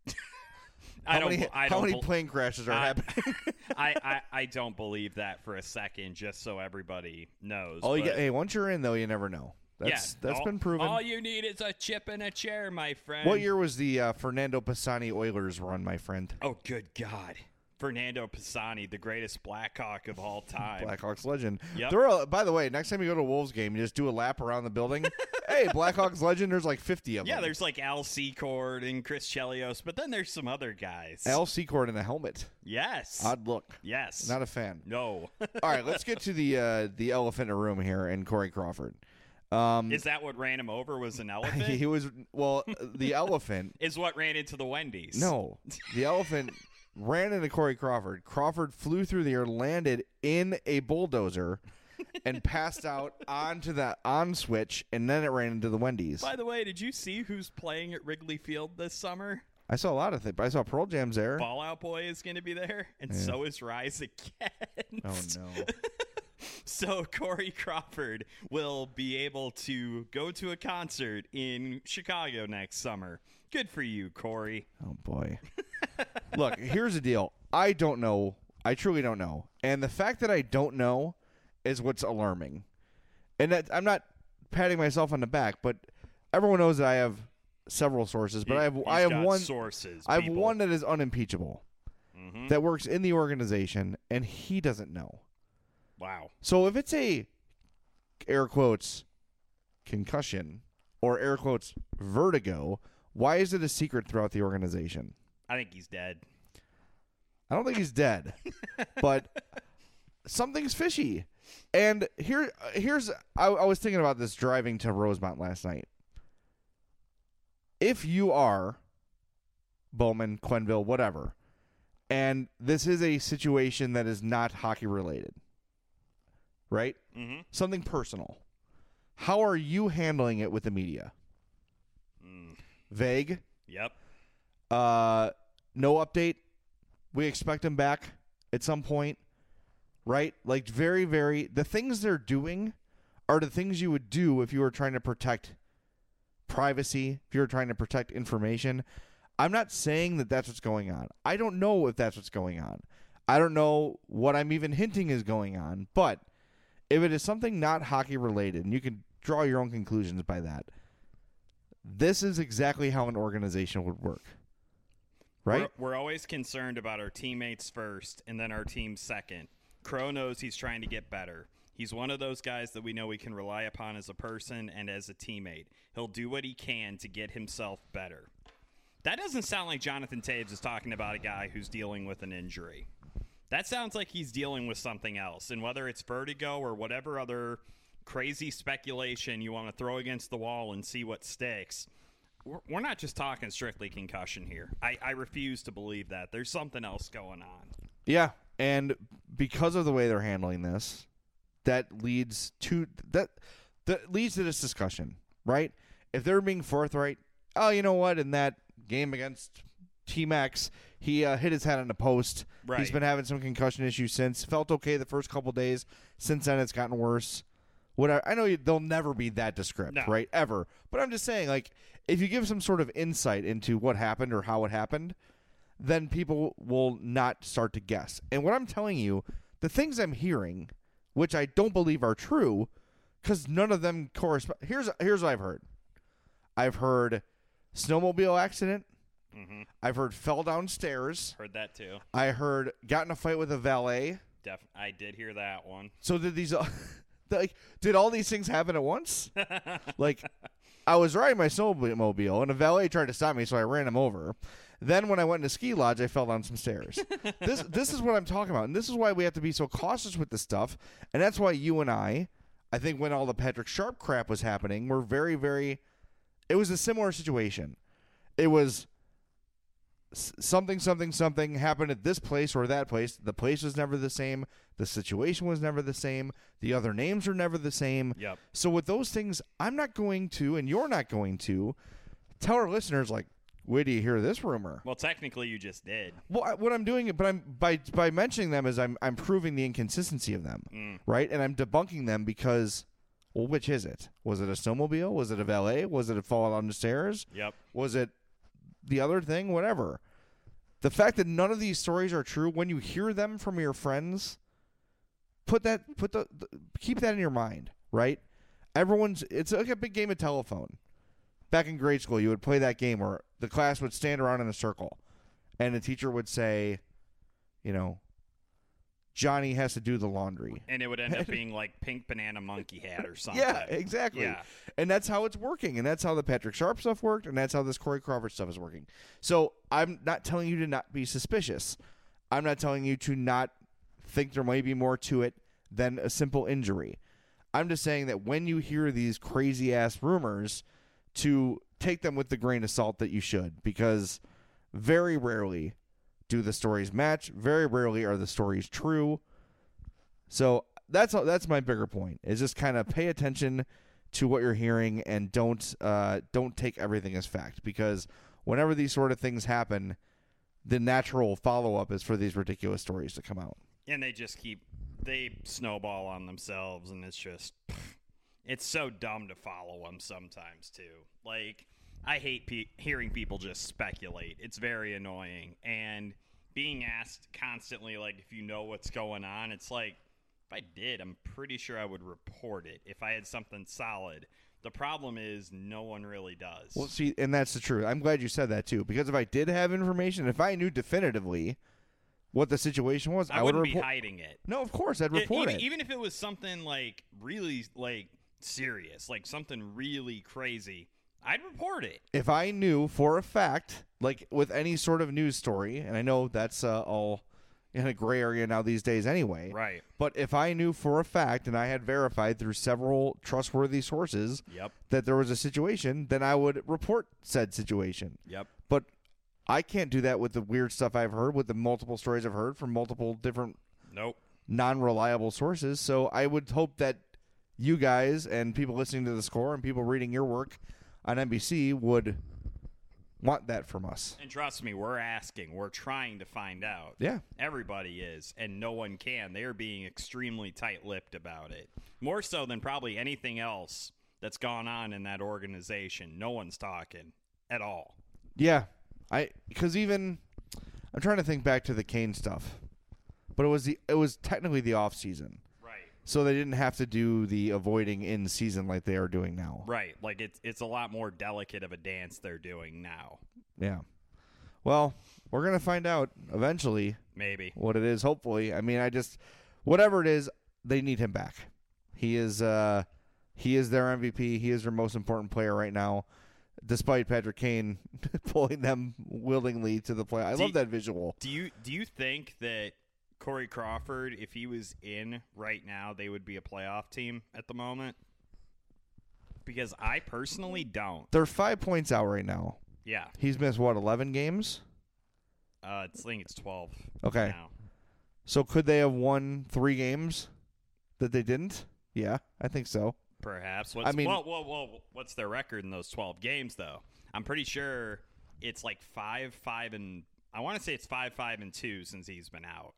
I how don't. many, I how don't many bel- plane crashes are I- happening? I, I, I don't believe that for a second. Just so everybody knows. Oh, you But- get, hey, once you're in though, you never know. That's yeah, that's all, been proven. All you need is a chip and a chair, my friend. What year was the uh, Fernando Pisani Oilers run, my friend? Oh, good God. Fernando Pisani, the greatest Blackhawk of all time. Blackhawks legend. Yep. Throw a, by the way, next time you go to a Wolves game, you just do a lap around the building. Hey, Blackhawks legend. There's like fifty of Yeah, them. there's like Al Secord and Chris Chelios, but then there's some other guys. Al Secord in a helmet. Yes. Odd look. Yes. Not a fan. No. All right, let's get to the uh, the elephant in the room here and Corey Crawford. Um, Is that what ran him over was an elephant? he was well. The elephant. Is what ran into the Wendy's. No, the elephant ran into Corey Crawford. Crawford flew through the air, landed in a bulldozer, and passed out onto the on switch, and then it ran into the Wendy's. By the way, did you see who's playing at Wrigley Field this summer? I saw a lot of things. I saw Pearl Jam's there. Fallout Boy is going to be there, and so is Rise Against. Oh no. So Corey Crawford will be able to go to a concert in Chicago next summer. Good for you, Corey. Oh boy. Look, here's the deal. I don't know. I truly don't know. And the fact that I don't know is what's alarming. And that, I'm not patting myself on the back, but everyone knows that I have several sources, but He- I have he's I have got one sources. I have people. one that is unimpeachable. Mhm. That works in the organization and he doesn't know. Wow. So if it's a air quotes concussion or air quotes vertigo, why is it a secret throughout the organization? I think he's dead. I don't think he's dead, but something's fishy. And here, here's I, I was thinking about this driving to Rosemont last night. If you are Bowman, Quenneville, whatever, and this is a situation that is not hockey related, right? Mm-hmm. Something personal. How are you handling it with the media? Mm. Vague. Yep. Uh, no update. We expect him back at some point, right? Like very, very. The things they're doing are the things you would do if you were trying to protect privacy, if you were trying to protect information. I'm not saying that that's what's going on. I don't know if that's what's going on. I don't know what I'm even hinting is going on. But if it is something not hockey related, and you can draw your own conclusions by that, this is exactly how an organization would work. Right? We're, we're always concerned about our teammates first and then our team second. Crow knows he's trying to get better. He's one of those guys that we know we can rely upon as a person and as a teammate. He'll do what he can to get himself better. That doesn't sound like Jonathan Toews is talking about a guy who's dealing with an injury. That sounds like he's dealing with something else. And whether it's vertigo or whatever other crazy speculation you want to throw against the wall and see what sticks, we're, we're not just talking strictly concussion here. I, I refuse to believe that. There's something else going on. Yeah, and because of the way they're handling this, that leads to that that leads to this discussion, right? If they're being forthright, oh, you know what? In that game against Team X, he uh, hit his head on the post. Right. He's been having some concussion issues since. Felt okay the first couple days. Since then, it's gotten worse. Whatever. I know you, they'll never be that descriptive, No. right? Ever. But I'm just saying, like, if you give some sort of insight into what happened or how it happened, then people will not start to guess. And what I'm telling you, the things I'm hearing, which I don't believe are true, because none of them correspond. Here's here's what I've heard. I've heard snowmobile accident. Mm-hmm. I've heard fell downstairs. Heard that too. I heard got in a fight with a valet. Def- I did hear that one. So did these, like, did all these things happen at once? Like, I was riding my snowmobile and a valet tried to stop me, so I ran him over. Then when I went into ski lodge, I fell down some stairs. this this is what I'm talking about, and this is why we have to be so cautious with this stuff. And that's why you and I, I think when all the Patrick Sharp crap was happening, we're very, very it was a similar situation. It was s- something, something, something happened at this place or that place. The place was never the same. The situation was never the same. The other names are never the same. Yep. So with those things, I'm not going to, and you're not going to, tell our listeners, like, where do you hear this rumor? Well, technically, you just did. Well, I, what I'm doing, but I'm by by mentioning them is I'm I'm proving the inconsistency of them, Mm. right? And I'm debunking them because, well, which is it? Was it a snowmobile? Was it a valet? Was it a fall down the stairs? Yep. Was it the other thing? Whatever. The fact that none of these stories are true, when you hear them from your friends, put that put the, the keep that in your mind, right? Everyone's it's like a big game of telephone. Back in grade school, you would play that game where the class would stand around in a circle, and the teacher would say, you know, Johnny has to do the laundry. And it would end up being like Pink Banana Monkey Hat or something. Yeah, exactly. Yeah. And that's how it's working, and that's how the Patrick Sharp stuff worked, and that's how this Corey Crawford stuff is working. So I'm not telling you to not be suspicious. I'm not telling you to not think there might be more to it than a simple injury. I'm just saying that when you hear these crazy-ass rumors, to take them with the grain of salt that you should, because very rarely do the stories match. Very rarely are the stories true. So that's that's my bigger point, is just kind of pay attention to what you're hearing and don't uh, don't take everything as fact, because whenever these sort of things happen, the natural follow-up is for these ridiculous stories to come out. And they just keep, they snowball on themselves, and it's just, it's so dumb to follow them sometimes, too. Like, I hate pe- hearing people just speculate. It's very annoying. And being asked constantly, like, if you know what's going on, it's like, if I did, I'm pretty sure I would report it if I had something solid. The problem is no one really does. Well, see, and that's the truth. I'm glad you said that, too, because if I did have information, if I knew definitively what the situation was, I, I would wouldn't report. be hiding it. No, of course, I'd E- report even, it. even if it was something, like, really, like, serious, like something really crazy, I'd report it. If I knew for a fact, like with any sort of news story, and I know that's uh, all in a gray area now these days anyway. Right. But if I knew for a fact, and I had verified through several trustworthy sources Yep. that there was a situation, then I would report said situation. Yep. But I can't do that with the weird stuff I've heard, with the multiple stories I've heard from multiple different Nope. non-reliable sources. So I would hope that you guys and people listening to The Score and people reading your work on N B C would want that from us. And trust me, we're asking. We're trying to find out. Yeah. Everybody is, and no one can. They are being extremely tight-lipped about it. More so than probably anything else that's gone on in that organization. No one's talking at all. Yeah. I because even I'm trying to think back to the Kane stuff. But it was the it was technically the off season. Right. So they didn't have to do the avoiding in season like they are doing now. Right. Like, it's, it's a lot more delicate of a dance they're doing now. Yeah. Well, we're going to find out eventually Maybe. what it is, hopefully. I mean, I just whatever it is, they need him back. He is uh he is their M V P. He is their most important player right now, despite Patrick Kane pulling them willingly to the play. I Do love you- that visual. Do you do you think that Corey Crawford, if he was in right now, they would be a playoff team at the moment? Because I personally don't. They're five points out right now. Yeah. He's missed, what, eleven games? Uh, it's, I think it's twelve. Okay. Now. So could they have won three games that they didn't? Yeah, I think so. Perhaps. What's, I mean- whoa, whoa, whoa, what's their record in those twelve games, though? I'm pretty sure it's like five, five, and I want to say it's five, five, and two since he's been out.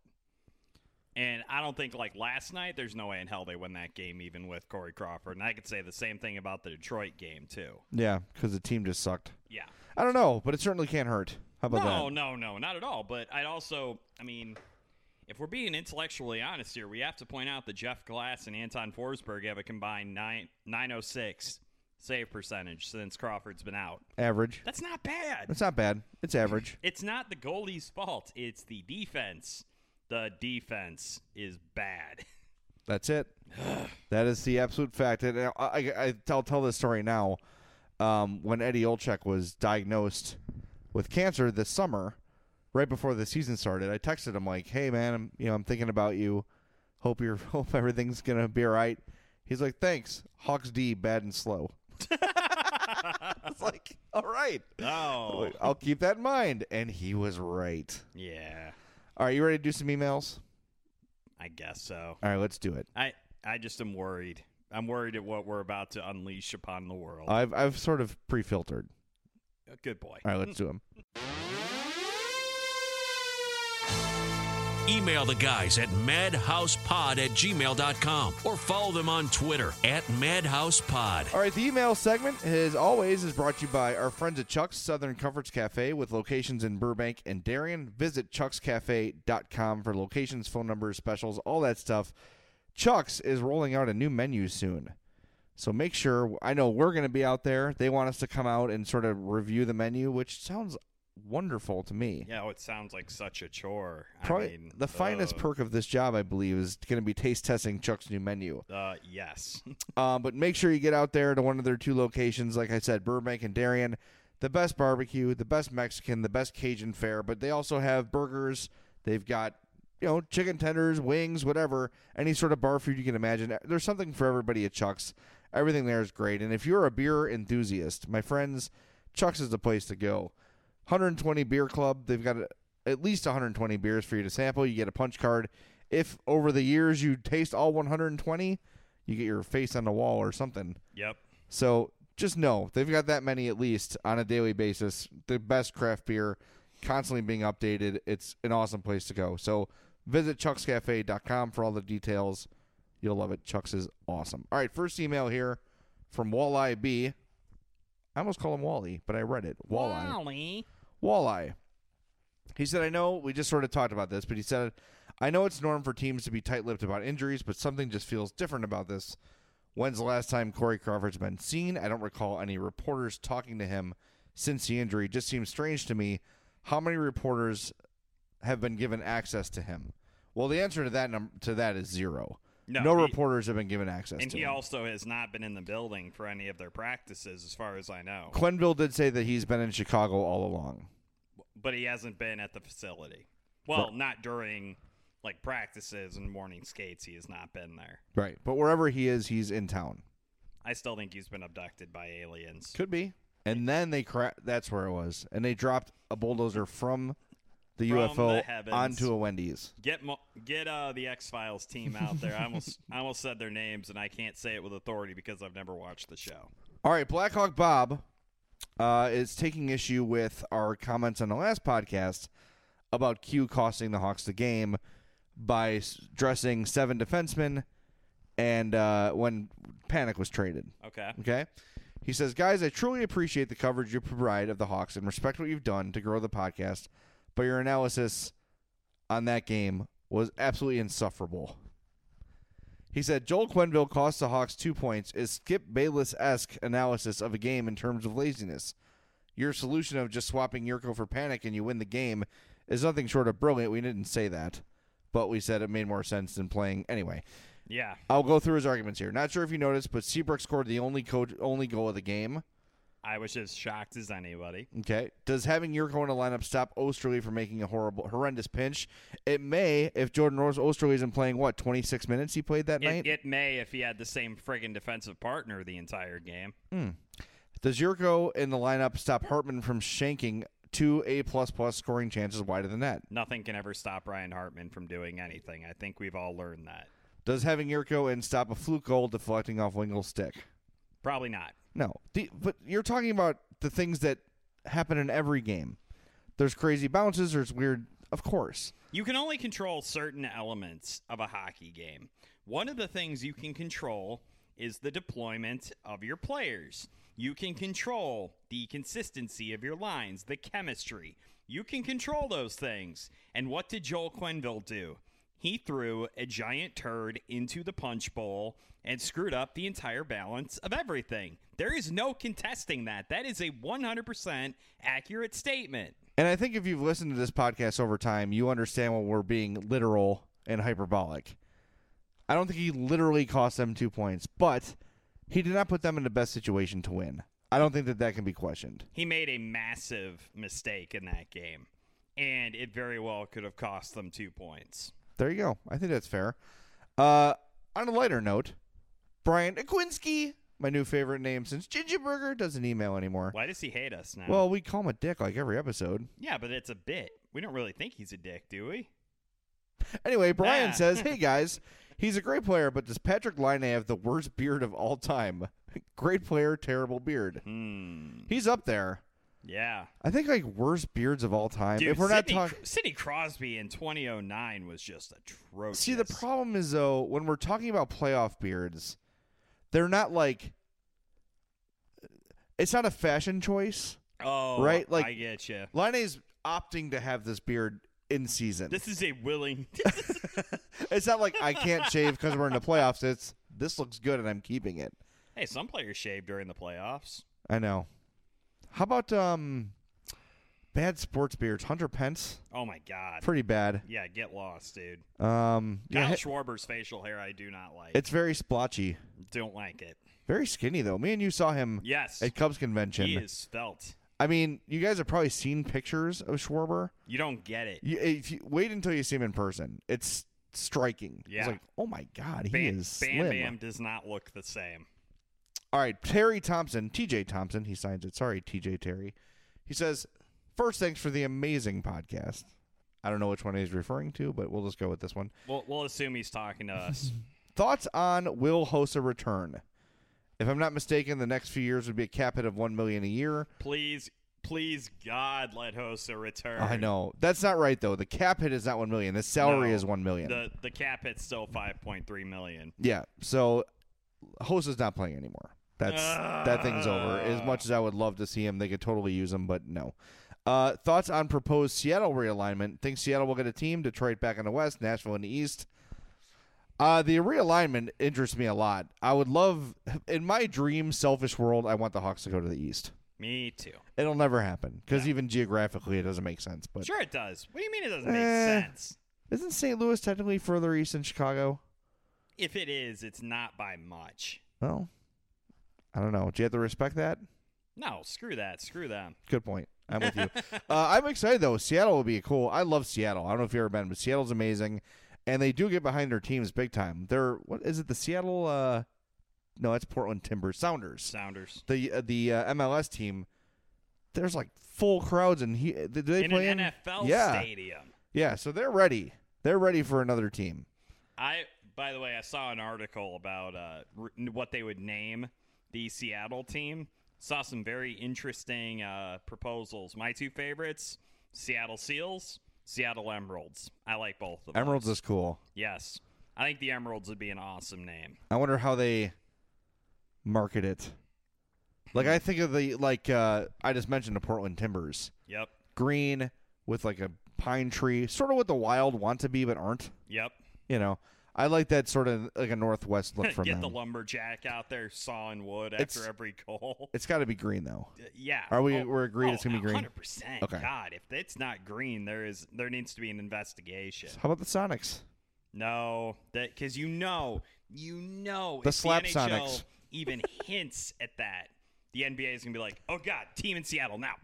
And I don't think, like, last night, there's no way in hell they win that game even with Corey Crawford. And I could say the same thing about the Detroit game, too. Yeah, because the team just sucked. Yeah. I don't know, but it certainly can't hurt. How about no, that? no, no, not at all. But I'd also, I mean, if we're being intellectually honest here, we have to point out that Jeff Glass and Anton Forsberg have a combined nine nine oh six save percentage since Crawford's been out. Average. That's not bad. It's not bad. It's average. It's not the goalie's fault. It's the defense. The defense is bad. That's it. That is the absolute fact. And I, I, I, I'll tell this story now. Um, when Eddie Olczyk was diagnosed with cancer this summer, right before the season started, I texted him like, "Hey man, I'm you know I'm thinking about you. Hope you're hope everything's gonna be all right." He's like, "Thanks. Hawks D bad and slow." was like, all right. Oh. I'll keep that in mind. And he was right. Yeah. All right, you ready to do some emails? I guess so. All right, let's do it. I, I just am worried. I'm worried at what we're about to unleash upon the world. I've I've sort of pre-filtered. Good boy. All right, let's do them. Email the guys at madhousepod at gmail dot com or follow them on Twitter at madhousepod. All right, the email segment, as always, is brought to you by our friends at Chuck's Southern Comforts Cafe with locations in Burbank and Darien. Visit chucks cafe dot com for locations, phone numbers, specials, all that stuff. Chuck's is rolling out a new menu soon. So make sure, I know we're going to be out there. They want us to come out and sort of review the menu, which sounds wonderful to me. Yeah, oh, it sounds like such a chore. Probably I mean, the finest uh, perk of this job, I believe, is going to be taste testing Chuck's new menu. Uh, yes. um, but make sure you get out there to one of their two locations. Like I said, Burbank and Darien. The best barbecue, the best Mexican, the best Cajun fare. But they also have burgers. They've got, you know, chicken tenders, wings, whatever. Any sort of bar food you can imagine. There's something for everybody at Chuck's. Everything there is great. And if you're a beer enthusiast, my friends, Chuck's is the place to go. one hundred twenty beer club. They've got at least one hundred twenty beers for you to sample. You get a punch card. If over the years you taste all one hundred twenty, you get your face on the wall or something. Yep. So just know they've got that many at least on a daily basis. The best craft beer, constantly being updated. It's an awesome place to go. So visit chucks cafe dot com for all the details. You'll love it. Chuck's is awesome. All right, first email here from Walleye B. I almost call him Wally, but I read it. Walleye. Wally. Walleye. He said, I know, we just sort of talked about this, but he said, I know it's norm for teams to be tight-lipped about injuries, but something just feels different about this. When's the last time Corey Crawford's been seen? I don't recall any reporters talking to him since the injury. It just seems strange to me. How many reporters have been given access to him? Well, the answer to that num- to that is zero. No, no he, reporters have been given access and to he him. also has not been in the building for any of their practices, as far as I know. Quenneville did say that he's been in Chicago all along. But he hasn't been at the facility. Well, Right. not during like practices and morning skates. He has not been there. Right. But wherever he is, he's in town. I still think he's been abducted by aliens. Could be. And then they cra- that's where it was. And they dropped a bulldozer from the From U F O the heavens. onto a Wendy's. Get mo- get uh, the X-Files team out there. I almost I almost said their names, and I can't say it with authority because I've never watched the show. All right, Blackhawk Bob uh, is taking issue with our comments on the last podcast about Q costing the Hawks the game by s- dressing seven defensemen and uh, when Panic was traded. Okay. Okay? He says, guys, I truly appreciate the coverage you provide of the Hawks and respect what you've done to grow the podcast, but your analysis on that game was absolutely insufferable. He said, Joel Quenneville cost the Hawks two points is Skip Bayless-esque analysis of a game in terms of laziness. Your solution of just swapping Yurko for Panic and you win the game is nothing short of brilliant. We didn't say that, but we said it made more sense than playing. Anyway, Yeah. I'll go through his arguments here. Not sure if you noticed, but Seabrook scored the only co- only goal of the game. I was as shocked as anybody. Okay. Does having Yurko in the lineup stop Osterley from making a horrible, horrendous pinch? It may if Jordan Rose Osterley isn't playing, what, twenty-six minutes he played that night? It, it may if he had the same friggin' defensive partner the entire game. Hmm. Does Yurko in the lineup stop Hartman from shanking two A-plus-plus scoring chances wide of the net? Nothing can ever stop Ryan Hartman from doing anything. I think we've all learned that. Does having Yurko in stop a fluke goal deflecting off Wingle's stick? Probably not. No. The, but you're talking about the things that happen in every game. There's crazy bounces. There's weird, of course. You can only control certain elements of a hockey game. One of the things you can control is the deployment of your players. You can control the consistency of your lines, the chemistry. You can control those things. And what did Joel Quenneville do? He threw a giant turd into the punch bowl and screwed up the entire balance of everything. There is no contesting that. That is a one hundred percent accurate statement. And I think if you've listened to this podcast over time, you understand when we're being literal and hyperbolic. I don't think he literally cost them two points, but he did not put them in the best situation to win. I don't think that that can be questioned. He made a massive mistake in that game, and it very well could have cost them two points. There you go. I think that's fair. Uh, on a lighter note, Brian Aquinski my new favorite name since Ginger Burger doesn't email anymore. Why does he hate us now? Well, we call him a dick like every episode. yeah, but it's a bit. We don't really think he's a dick, do we? Anyway, Brian Ah. says, hey, guys, he's a great player, but does Patrick Laine have the worst beard of all time? Great player, terrible beard. Hmm. He's up there. Yeah. I think, like, worst beards of all time. Dude, if we're not Sidney, talking... Sidney Crosby in twenty oh nine was just atrocious. See, the problem is, though, when we're talking about playoff beards, they're not, like... It's not a fashion choice. Oh, right? Like, I get you. Laine's opting to have this beard in season. This is a willing. It's not like I can't shave because we're in the playoffs. It's this looks good and I'm keeping it. Hey, some players shave during the playoffs. I know. How about um, bad sports beards? Hunter Pence, Oh my god. pretty bad. Yeah, get lost, dude. Um, Kyle yeah, Schwarber's facial hair, I do not like. it's very splotchy. Don't like it. Very skinny though. Me and you saw him Yes, at Cubs convention. he is svelte. I mean, you guys have probably seen pictures of Schwarber. You don't get it. You, if you wait until you see him in person, it's striking. Yeah. It's like, oh my god, he Bam, is Bam slim. Bam does not look the same. All right, Terry Thompson, T J Thompson, he signs it. Sorry, T J Terry. He says, first, thanks for the amazing podcast. I don't know which one he's referring to, but we'll just go with this one. We'll, we'll assume he's talking to us. Thoughts on Will Hossa return? If I'm not mistaken, the next few years would be a cap hit of one million dollars a year. Please, please, God, let Hossa return. I know. That's not right, though. The cap hit is not one million dollars. The salary No, is one million dollars. The the cap hit's still five point three million. Yeah, so Hossa's not playing anymore. That's that thing's over. As much as I would love to see him, they could totally use him, but no. Uh, thoughts on proposed Seattle realignment? Think Seattle will get a team? Detroit back in the West, Nashville in the East. Uh, the realignment interests me a lot. I would love, in my dream, selfish world, I want the Hawks to go to the East. Me too. It'll never happen because even geographically, it doesn't make sense. But Sure it does. What do you mean it doesn't make Eh. sense? isn't Saint Louis technically further east than Chicago? If it is, it's not by much. Well, I don't know. Do you have to respect that? No, screw that. Screw them. Good point. I'm with you. uh, I'm excited, though. Seattle will be cool. I love Seattle. I don't know if you've ever been, but Seattle's amazing. And they do get behind their teams big time. They're, what is it, the Seattle, uh, no, that's Portland Timbers, Sounders. Sounders. The uh, the uh, M L S team, there's like full crowds. and he, do they In play an in? N F L yeah. stadium. Yeah, so they're ready. They're ready for another team. I, by the way, I saw an article about uh, r- what they would name the Seattle team. Saw some very interesting uh, proposals. My two favorites, Seattle Seals, Seattle Emeralds. I like both of them. Emeralds is cool. Yes. I think the Emeralds would be an awesome name. I wonder how they market it. Like, I think of the, like, uh, I just mentioned the Portland Timbers. Yep. Green with, like, a pine tree. Sort of what the Wild want to be but aren't. Yep. You know, I like that sort of, like, a Northwest look from Get them. the lumberjack out there sawing wood after It's- every goal. It's got to be green, though. Uh, yeah. Are we- Oh, we're agreed oh, it's gonna be green? one hundred percent. Okay. God, if it's not green, there is there needs to be an investigation. How about the Sonics? No, that because you know, you know, The if Slap the N H L Sonics. even hints at that, the N B A is gonna be like, "Oh God, team in Seattle now."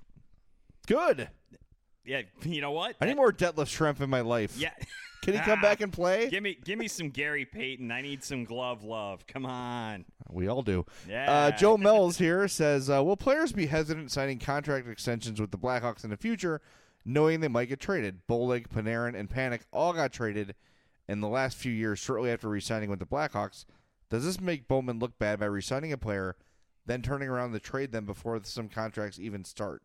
Good. Yeah, you know what? I need That- more Detlef Schrempf in my life. Yeah. Can he come back and play? Give me, give me some Gary Payton. I need some glove love. Come on. We all do. Yeah. Uh, Joe Mells here says, uh, will players be hesitant signing contract extensions with the Blackhawks in the future, knowing they might get traded? Bolig, Panarin, and Panic all got traded in the last few years shortly after re-signing with the Blackhawks. Does this make Bowman look bad by re-signing a player, then turning around to trade them before some contracts even start?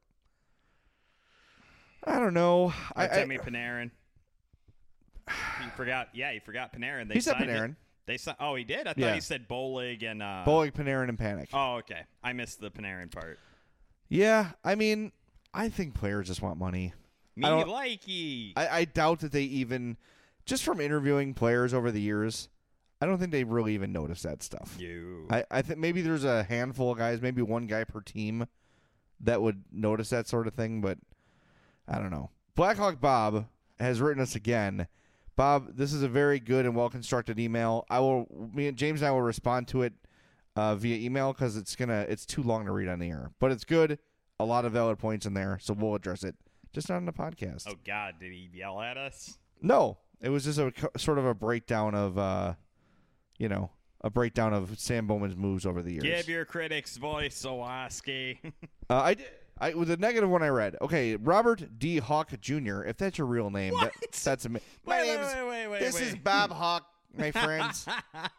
I don't know. I, I, Timmy Panarin. You forgot. Yeah, you forgot Panarin. They he said signed it- Panarin. They si- Oh, he did. I thought Yeah. he said Bolig and. Uh, Bolig, Panarin, and Panic. Oh, okay. I missed the Panarin part. Yeah, I mean, I think players just want money. Me I don't- likey. I, I doubt that they even, just from interviewing players over the years, I don't think they really even notice that stuff. you. I, I think maybe there's a handful of guys, maybe one guy per team, that would notice that sort of thing, but I don't know. Blackhawk Bob has written us again. Bob, this is a very good and well-constructed email. I will, me and James and I will respond to it uh, via email because it's gonna, it's too long to read on the air, but it's good. A lot of valid points in there, so we'll address it, just not on the podcast. Oh God, did he yell at us? No, it was just a co- sort of a breakdown of, uh, you know, a breakdown of Sam Bowman's moves over the years. Give your critics voice, Owoski. uh, I did. I with the negative one I read. Okay, Robert D. Hawk Junior If that's your real name, that, that's amazing. My Wait, name's wait, wait, wait, wait, this wait. is Bob Hawk, my friends.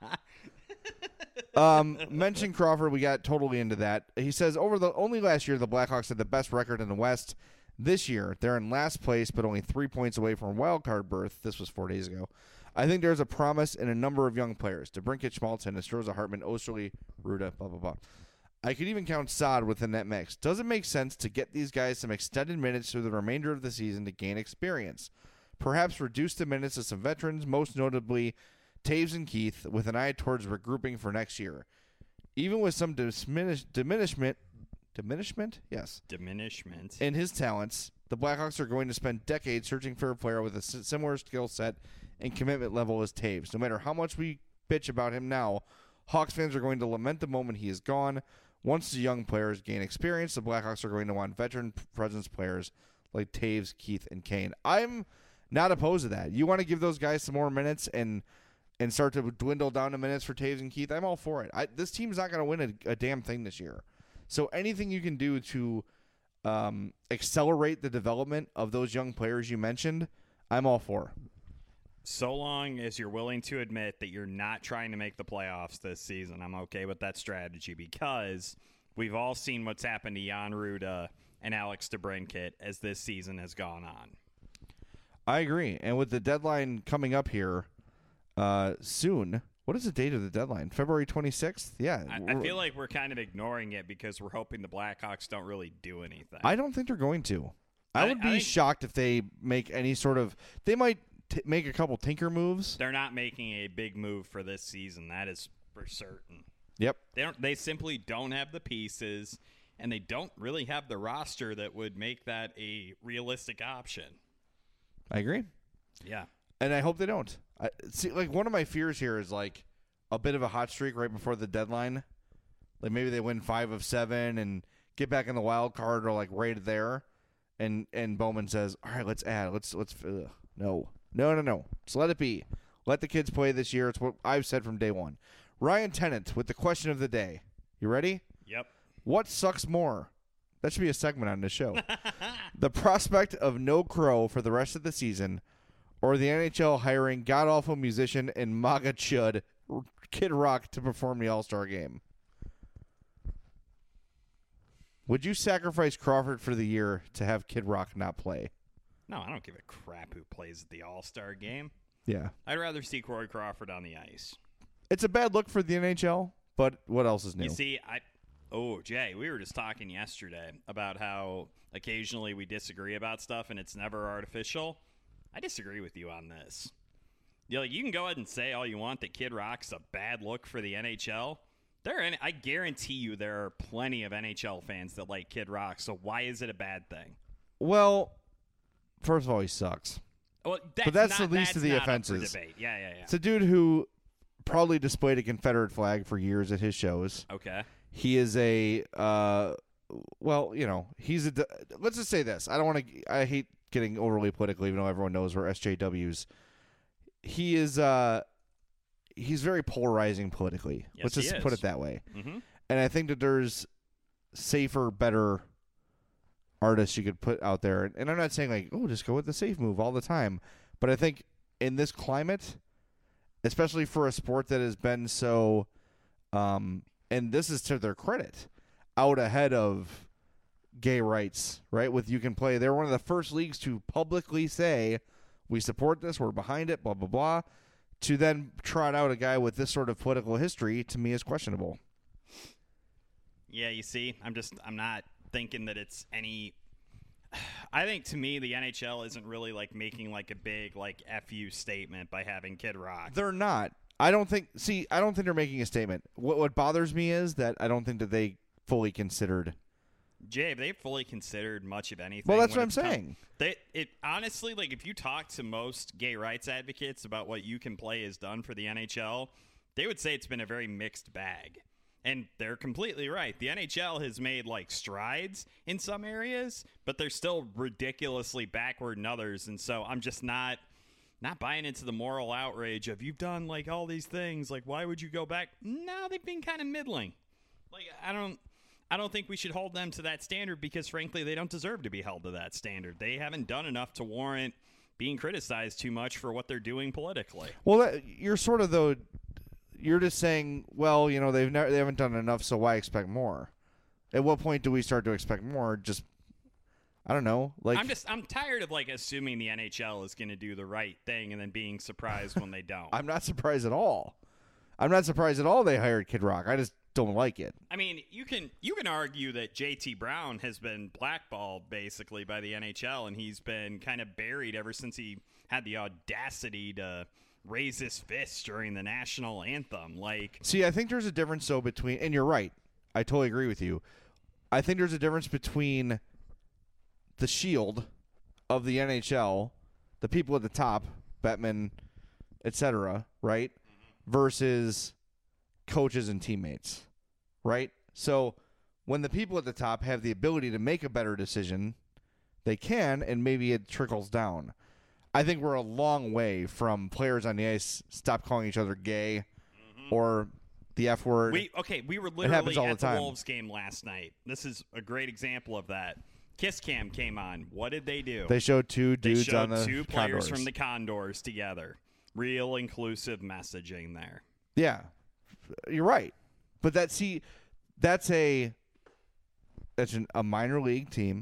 um, mention Crawford. We got totally into that. He says over the only last year the Blackhawks had the best record in the West. This year they're in last place, but only three points away from a wild card berth. This was four days ago. I think there's a promise in a number of young players: DeBrincat, Schmaltz, Estroza, Hartman, Osterley, Ruda, blah blah blah. I could even count Saad within that mix. Does it make sense to get these guys some extended minutes through the remainder of the season to gain experience? Perhaps reduce the minutes of some veterans, most notably Taves and Keith, with an eye towards regrouping for next year. Even with some diminish, diminishment, diminishment, yes, Diminishment. in his talents, the Blackhawks are going to spend decades searching for a player with a s- similar skill set and commitment level as Taves. No matter how much we bitch about him now, Hawks fans are going to lament the moment he is gone. Once the young players gain experience, the Blackhawks are going to want veteran presence players like Taves, Keith, and Kane. I'm not opposed to that. You want to give those guys some more minutes and and start to dwindle down the minutes for Taves and Keith, I'm all for it. I, this team's not going to win a, a damn thing this year. So anything you can do to um, accelerate the development of those young players you mentioned, I'm all for. So long as you're willing to admit that you're not trying to make the playoffs this season, I'm okay with that strategy, because we've all seen what's happened to Jan Ruda and Alex DeBrincat as this season has gone on. I agree. And with the deadline coming up here uh, soon, what is the date of the deadline? February twenty-sixth? Yeah. I, I feel like we're kind of ignoring it because we're hoping the Blackhawks don't really do anything. I don't think they're going to. I, I- would be I think- shocked if they make any sort of – they might t- make a couple tinker moves. They're not making a big move for this season. That is for certain. Yep. They don't. They simply don't have the pieces, and they don't really have the roster that would make that a realistic option. I agree. Yeah. And I hope they don't. I, see, like, one of my fears here is, like, a bit of a hot streak right before the deadline. Like, maybe they win five of seven and get back in the wild card or, like, right there. And and Bowman says, all right, let's add. Let's, let's, ugh, no. No, no, no. Just let it be. Let the kids play this year. It's what I've said from day one. Ryan Tennant with the question of the day. You ready? Yep. What sucks more? That should be a segment on the show. The prospect of no Crow for the rest of the season, or the N H L hiring god-awful musician and MAGA chud Kid Rock to perform the All-Star game. Would you sacrifice Crawford for the year to have Kid Rock not play? No, I don't give a crap who plays at the All-Star game. Yeah. I'd rather see Corey Crawford on the ice. It's a bad look for the N H L, but what else is new? You see, I oh Jay, we were just talking yesterday about how occasionally we disagree about stuff and it's never artificial. I disagree with you on this. You know, you can go ahead and say all you want that Kid Rock's a bad look for the N H L. There, are, I guarantee you, there are plenty of N H L fans that like Kid Rock. So why is it a bad thing? Well, first of all, he sucks. Well, that's But that's not, the least that's of the not up for offenses. debate. Yeah, yeah, yeah. It's a dude who proudly displayed a Confederate flag for years at his shows. Okay. He is a, uh, well, you know, he's a. Let's just say this. I don't want to. I hate getting overly political, even though everyone knows we're S J Ws. He is. Uh, he's very polarizing politically. Yes, Let's he just is. put it that way. Mm-hmm. And I think that there's safer, better artists you could put out there. And I'm not saying like, oh, just go with the safe move all the time. But I think in this climate, especially for a sport that has been so, um, and this is to their credit, out ahead of gay rights, right? With You Can Play. They're one of the first leagues to publicly say, we support this, we're behind it, blah, blah, blah. To then trot out a guy with this sort of political history, to me, is questionable. Yeah, you see, I'm just, I'm not thinking that it's any. I think to me, the N H L isn't really like making like a big like F U statement by having Kid Rock. They're not. I don't think. See, I don't think they're making a statement. What What bothers me is that I don't think that they fully considered. Jay, have they fully considered much of anything? Well, that's when what I'm it's come- saying. They, it honestly, like if you talk to most gay rights advocates about what You Can Play has done for the N H L, they would say it's been a very mixed bag. And they're completely right. The N H L has made like strides in some areas, but they're still ridiculously backward in others. And so I'm just not, not buying into the moral outrage of you've done like all these things. Like, why would you go back? No, they've been kind of middling. Like, I don't, I don't think we should hold them to that standard because, frankly, they don't deserve to be held to that standard. They haven't done enough to warrant being criticized too much for what they're doing politically. Well, that, you're sort of though. You're just saying, well, you know, they've never, they haven't done enough, so why expect more? At what point do we start to expect more? Just, I don't know. Like, I'm just, I'm tired of like assuming the N H L is going to do the right thing and then being surprised when they don't. I'm not surprised at all. I'm not surprised at all they hired Kid Rock. I just don't like it. I mean, you can you can argue that J T Brown has been blackballed basically by the N H L, and he's been kind of buried ever since he had the audacity to raise his fist during the national anthem. Like, see, I think there's a difference though between, and you're right. I totally agree with you. I think there's a difference between the shield of the N H L, the people at the top, Bettman, et cetera, right, versus coaches and teammates, right? So when the people at the top have the ability to make a better decision, they can, and maybe it trickles down. I think we're a long way from players on the ice stop calling each other gay mm-hmm. or the F word. We okay, we were literally at the, the Wolves game last night. This is a great example of that. Kiss Cam came on. What did they do? They showed two dudes they showed on the two players Condors. from the Condors together. Real inclusive messaging there. Yeah, you're right. But that see, that's a that's an, a minor league team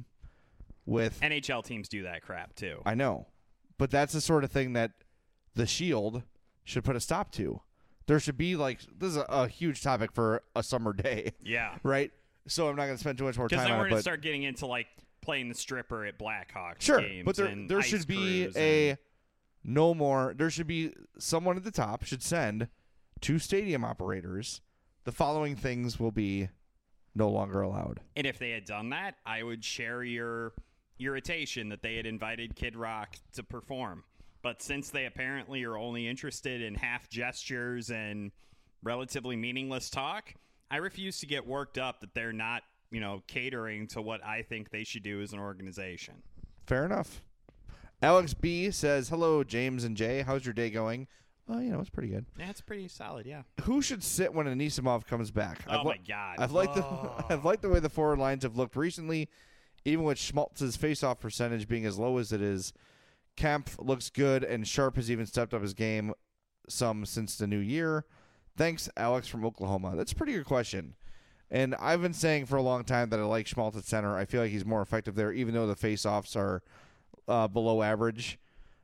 with N H L teams do that crap too. I know, but that's the sort of thing that the Shield should put a stop to. There should be like this is a, a huge topic for a summer day. Yeah. Right. So I'm not going to spend too much more time on it. Because then we're going to start getting into like playing the stripper at Blackhawks sure, games. but there and there ice should be crews a and... no more. There should be someone at the top should send to stadium operators. The following things will be no longer allowed. And if they had done that, I would share your irritation that they had invited Kid Rock to perform. But since they apparently are only interested in half gestures and relatively meaningless talk, I refuse to get worked up that they're not, you know, catering to what I think they should do as an organization. Fair enough. Alex B says, hello, James and Jay. How's your day going? Oh, you know, it's pretty good. Yeah, it's pretty solid, yeah. Who should sit when Anisimov comes back? Oh, I've my li- God. I've liked, oh. the, I've liked the way the forward lines have looked recently, even with Schmaltz's faceoff percentage being as low as it is. Kempf looks good, and Sharp has even stepped up his game some since the new year. Thanks, Alex from Oklahoma. That's a pretty good question. And I've been saying for a long time that I like Schmaltz at center. I feel like he's more effective there, even though the faceoffs are uh, below average.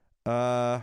Uh,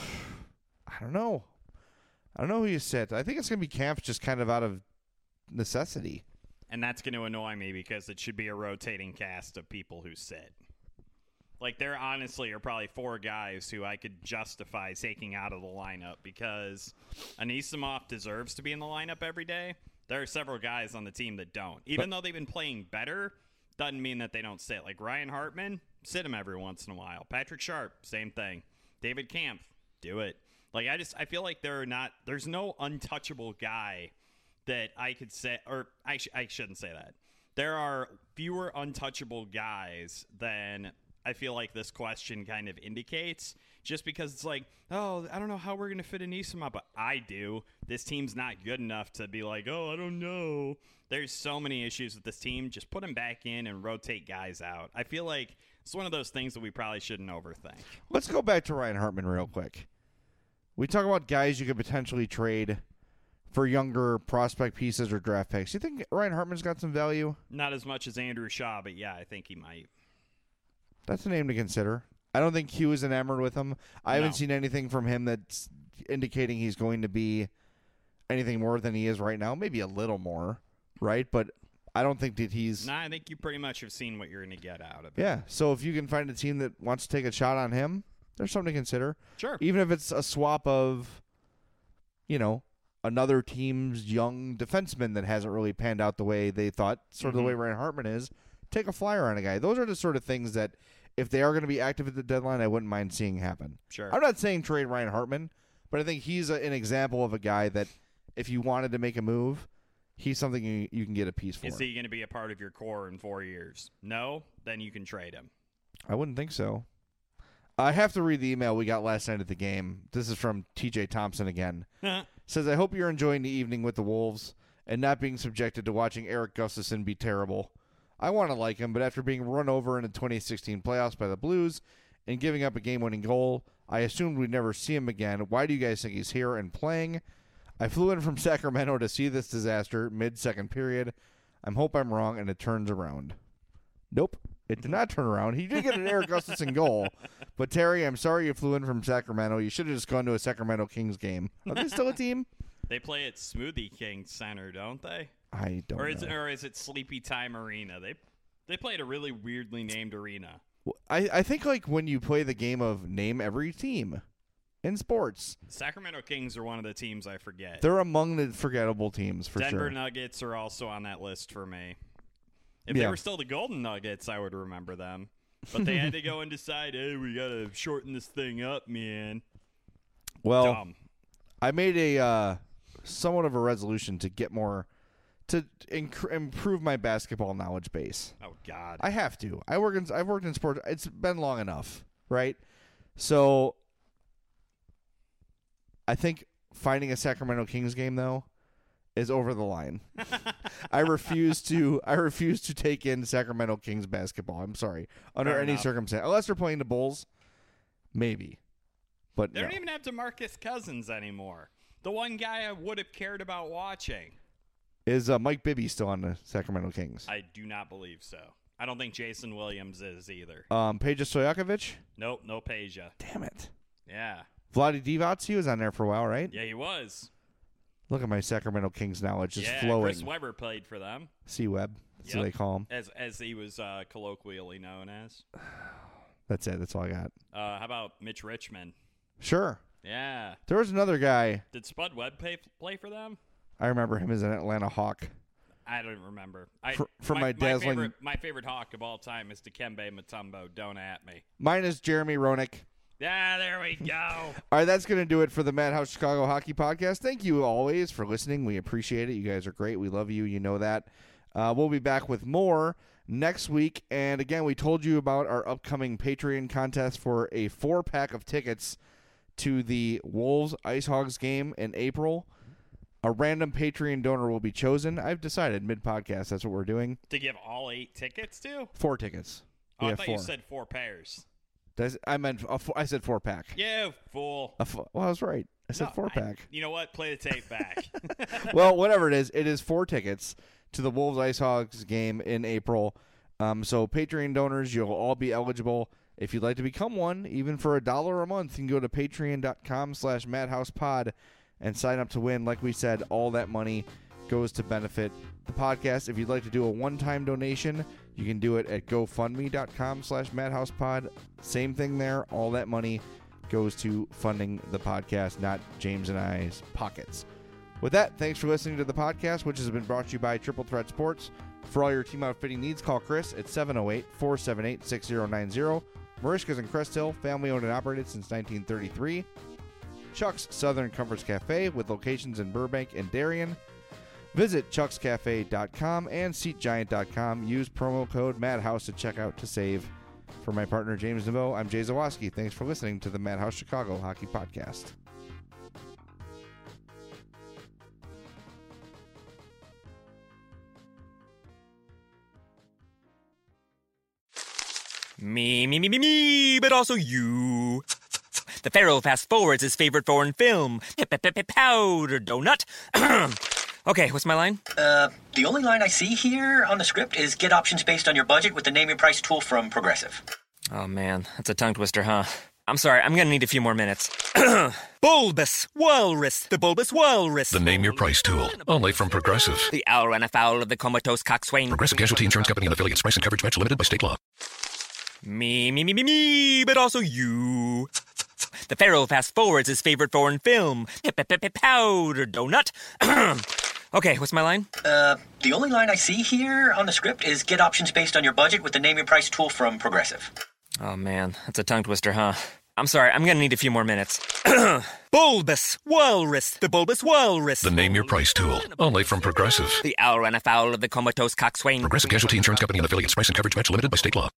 I don't know. I don't know who you sit. I think it's going to be Kempf just kind of out of necessity. And that's going to annoy me because it should be a rotating cast of people who sit. Like, there honestly are probably four guys who I could justify taking out of the lineup because Anisimov deserves to be in the lineup every day. There are several guys on the team that don't. Even but, though they've been playing better, doesn't mean that they don't sit. Like Ryan Hartman, sit him every once in a while. Patrick Sharp, same thing. David Kampf, do it. Like, I just, I feel like there are not, there's no untouchable guy that I could say, or I, sh- I shouldn't say that. There are fewer untouchable guys than I feel like this question kind of indicates, just because it's like, oh, I don't know how we're going to fit Anisimov, but I do. This team's not good enough to be like, oh, I don't know. There's so many issues with this team. Just put them back in and rotate guys out. I feel like it's one of those things that we probably shouldn't overthink. Let's go back to Ryan Hartman real quick. We talk about guys you could potentially trade for younger prospect pieces or draft picks. You think Ryan Hartman's got some value? Not as much as Andrew Shaw, but yeah, I think he might. That's a name to consider. I don't think Hugh is enamored with him. I no. haven't seen anything from him that's indicating he's going to be anything more than he is right now. Maybe a little more, right? But I don't think that he's... Nah, I think you pretty much have seen what you're going to get out of it. Yeah, so if you can find a team that wants to take a shot on him, there's something to consider. Sure. Even if it's a swap of, you know, another team's young defenseman that hasn't really panned out the way they thought, sort of mm-hmm. the way Ryan Hartman is, take a flyer on a guy. Those are the sort of things that, if they are going to be active at the deadline, I wouldn't mind seeing happen. Sure. I'm not saying trade Ryan Hartman, but I think he's a, an example of a guy that, if you wanted to make a move, he's something you, you can get a piece for. Is he going to be a part of your core in four years? No? Then you can trade him. I wouldn't think so. I have to read the email we got last night at the game. This is from T J Thompson again. Says, I hope you're enjoying the evening with the Wolves and not being subjected to watching Eric Gustafson be terrible. I want to like him, but after being run over in the twenty sixteen playoffs by the Blues and giving up a game-winning goal, I assumed we'd never see him again. Why do you guys think he's here and playing? I flew in from Sacramento to see this disaster mid-second period. I hope I'm wrong and it turns around. Nope, it did not turn around. He did get an Eric Gustafson goal. But, Terry, I'm sorry you flew in from Sacramento. You should have just gone to a Sacramento Kings game. Are they still a team? They play at Smoothie King Center, don't they? I don't or is know. It, or is it Sleepy Time Arena? They they played a really weirdly named arena. I, I think, like, when you play the game of name every team in sports. Sacramento Kings are one of the teams I forget. They're among the forgettable teams, for Denver sure. Nuggets are also on that list for me. If Yeah. they were still the Golden Nuggets, I would remember them. But they had to go and decide, hey, we got to shorten this thing up, man. Well, Dumb. I made a uh, somewhat of a resolution to get more, to inc- improve my basketball knowledge base. Oh, God. I have to. I work in. I've worked in sports. It's been long enough, right? So, I think finding a Sacramento Kings game though is over the line. I refuse to. I refuse to take in Sacramento Kings basketball. I'm sorry, under Fair any enough. circumstance, unless they're playing the Bulls, maybe. But They no. don't even have DeMarcus Cousins anymore. The one guy I would have cared about watching. Is uh, Mike Bibby still on the Sacramento Kings? I do not believe so. I don't think Jason Williams is either. Um, Peja Stojakovic? Nope, no Peja. Damn it. Yeah. Vlade Divac, he was on there for a while, right? Yeah, he was. Look at my Sacramento Kings knowledge just yeah, flowing. Chris Webber played for them. C-Web, that's what Yep. they call him. As as he was uh, colloquially known as. That's it. That's all I got. Uh, how about Mitch Richmond? Sure. Yeah. There was another guy. Did Spud Webb play, play for them? I remember him as an Atlanta Hawk. I don't remember. I, For- for my dazzling- favorite, my favorite Hawk of all time is Dikembe Mutombo. Don't at me. Mine is Jeremy Roenick. Yeah, there we go. All right, that's going to do it for the Madhouse Chicago Hockey Podcast. Thank you always for listening. We appreciate it. You guys are great. We love you. You know that. Uh, we'll be back with more next week. And again, we told you about our upcoming Patreon contest for a four-pack of tickets to the Wolves Ice Hogs game in April. A random Patreon donor will be chosen. I've decided mid-podcast that's what we're doing. To give all eight tickets to? Four tickets. Oh, We I have thought four. you said four pairs. That's- I meant a four, I said four-pack. You fool. A four, well, I was right. I said No, four-pack. I- you know what? Play the tape back. Well, whatever it is, it is four tickets to the Wolves Ice Hogs game in April. Um, so Patreon donors, you'll all be eligible. If you'd like to become one, even for a dollar a month, you can go to patreon.com slash madhousepod and sign up to win. Like we said, all that money goes to benefit the podcast. If you'd like to do a one-time donation, you can do it at gofundme.com slash madhousepod. Same thing there. All that money goes to funding the podcast, not James and I's pockets. With that, thanks for listening to the podcast, which has been brought to you by Triple Threat Sports. For all your team outfitting needs, call Chris at seven oh eight, four seven eight, six zero nine zero. Marishka's in Crest Hill, family owned and operated since nineteen thirty-three. Chuck's Southern Comforts Cafe with locations in Burbank and Darien. Visit chucks cafe dot com and seat giant dot com. Use promo code MADHOUSE to check out to save. For my partner James Neveau, I'm Jay Zawoski. Thanks for listening to the Madhouse Chicago Hockey Podcast. Me, me, me, me, me, but also you. The Pharaoh fast forwards his favorite foreign film, Powder Donut. Okay, what's my line? Uh, the only line I see here on the script is get options based on your budget with the Name Your Price tool from Progressive. Oh man, that's a tongue twister, huh? I'm sorry, I'm gonna need a few more minutes. Bulbous Walrus, the Bulbous Walrus. The Name Your Price tool, only from Progressive. The owl ran afoul of the comatose coxswain. Progressive Casualty Insurance Company and affiliates. Price and coverage match limited by state law. Me, me, me, me, me, but also you. The Pharaoh fast forwards his favorite foreign film, Powder Donut. Okay, what's my line? Uh, the only line I see here on the script is get options based on your budget with the Name Your Price tool from Progressive. Oh man, that's a tongue twister, huh? I'm sorry, I'm gonna need a few more minutes. Bulbous Walrus, the Bulbous Walrus. The Name Your Price tool, only from Progressive. The owl ran afoul of the comatose coxswain. Progressive Casualty Insurance Company and affiliates. Price and coverage match limited by state law.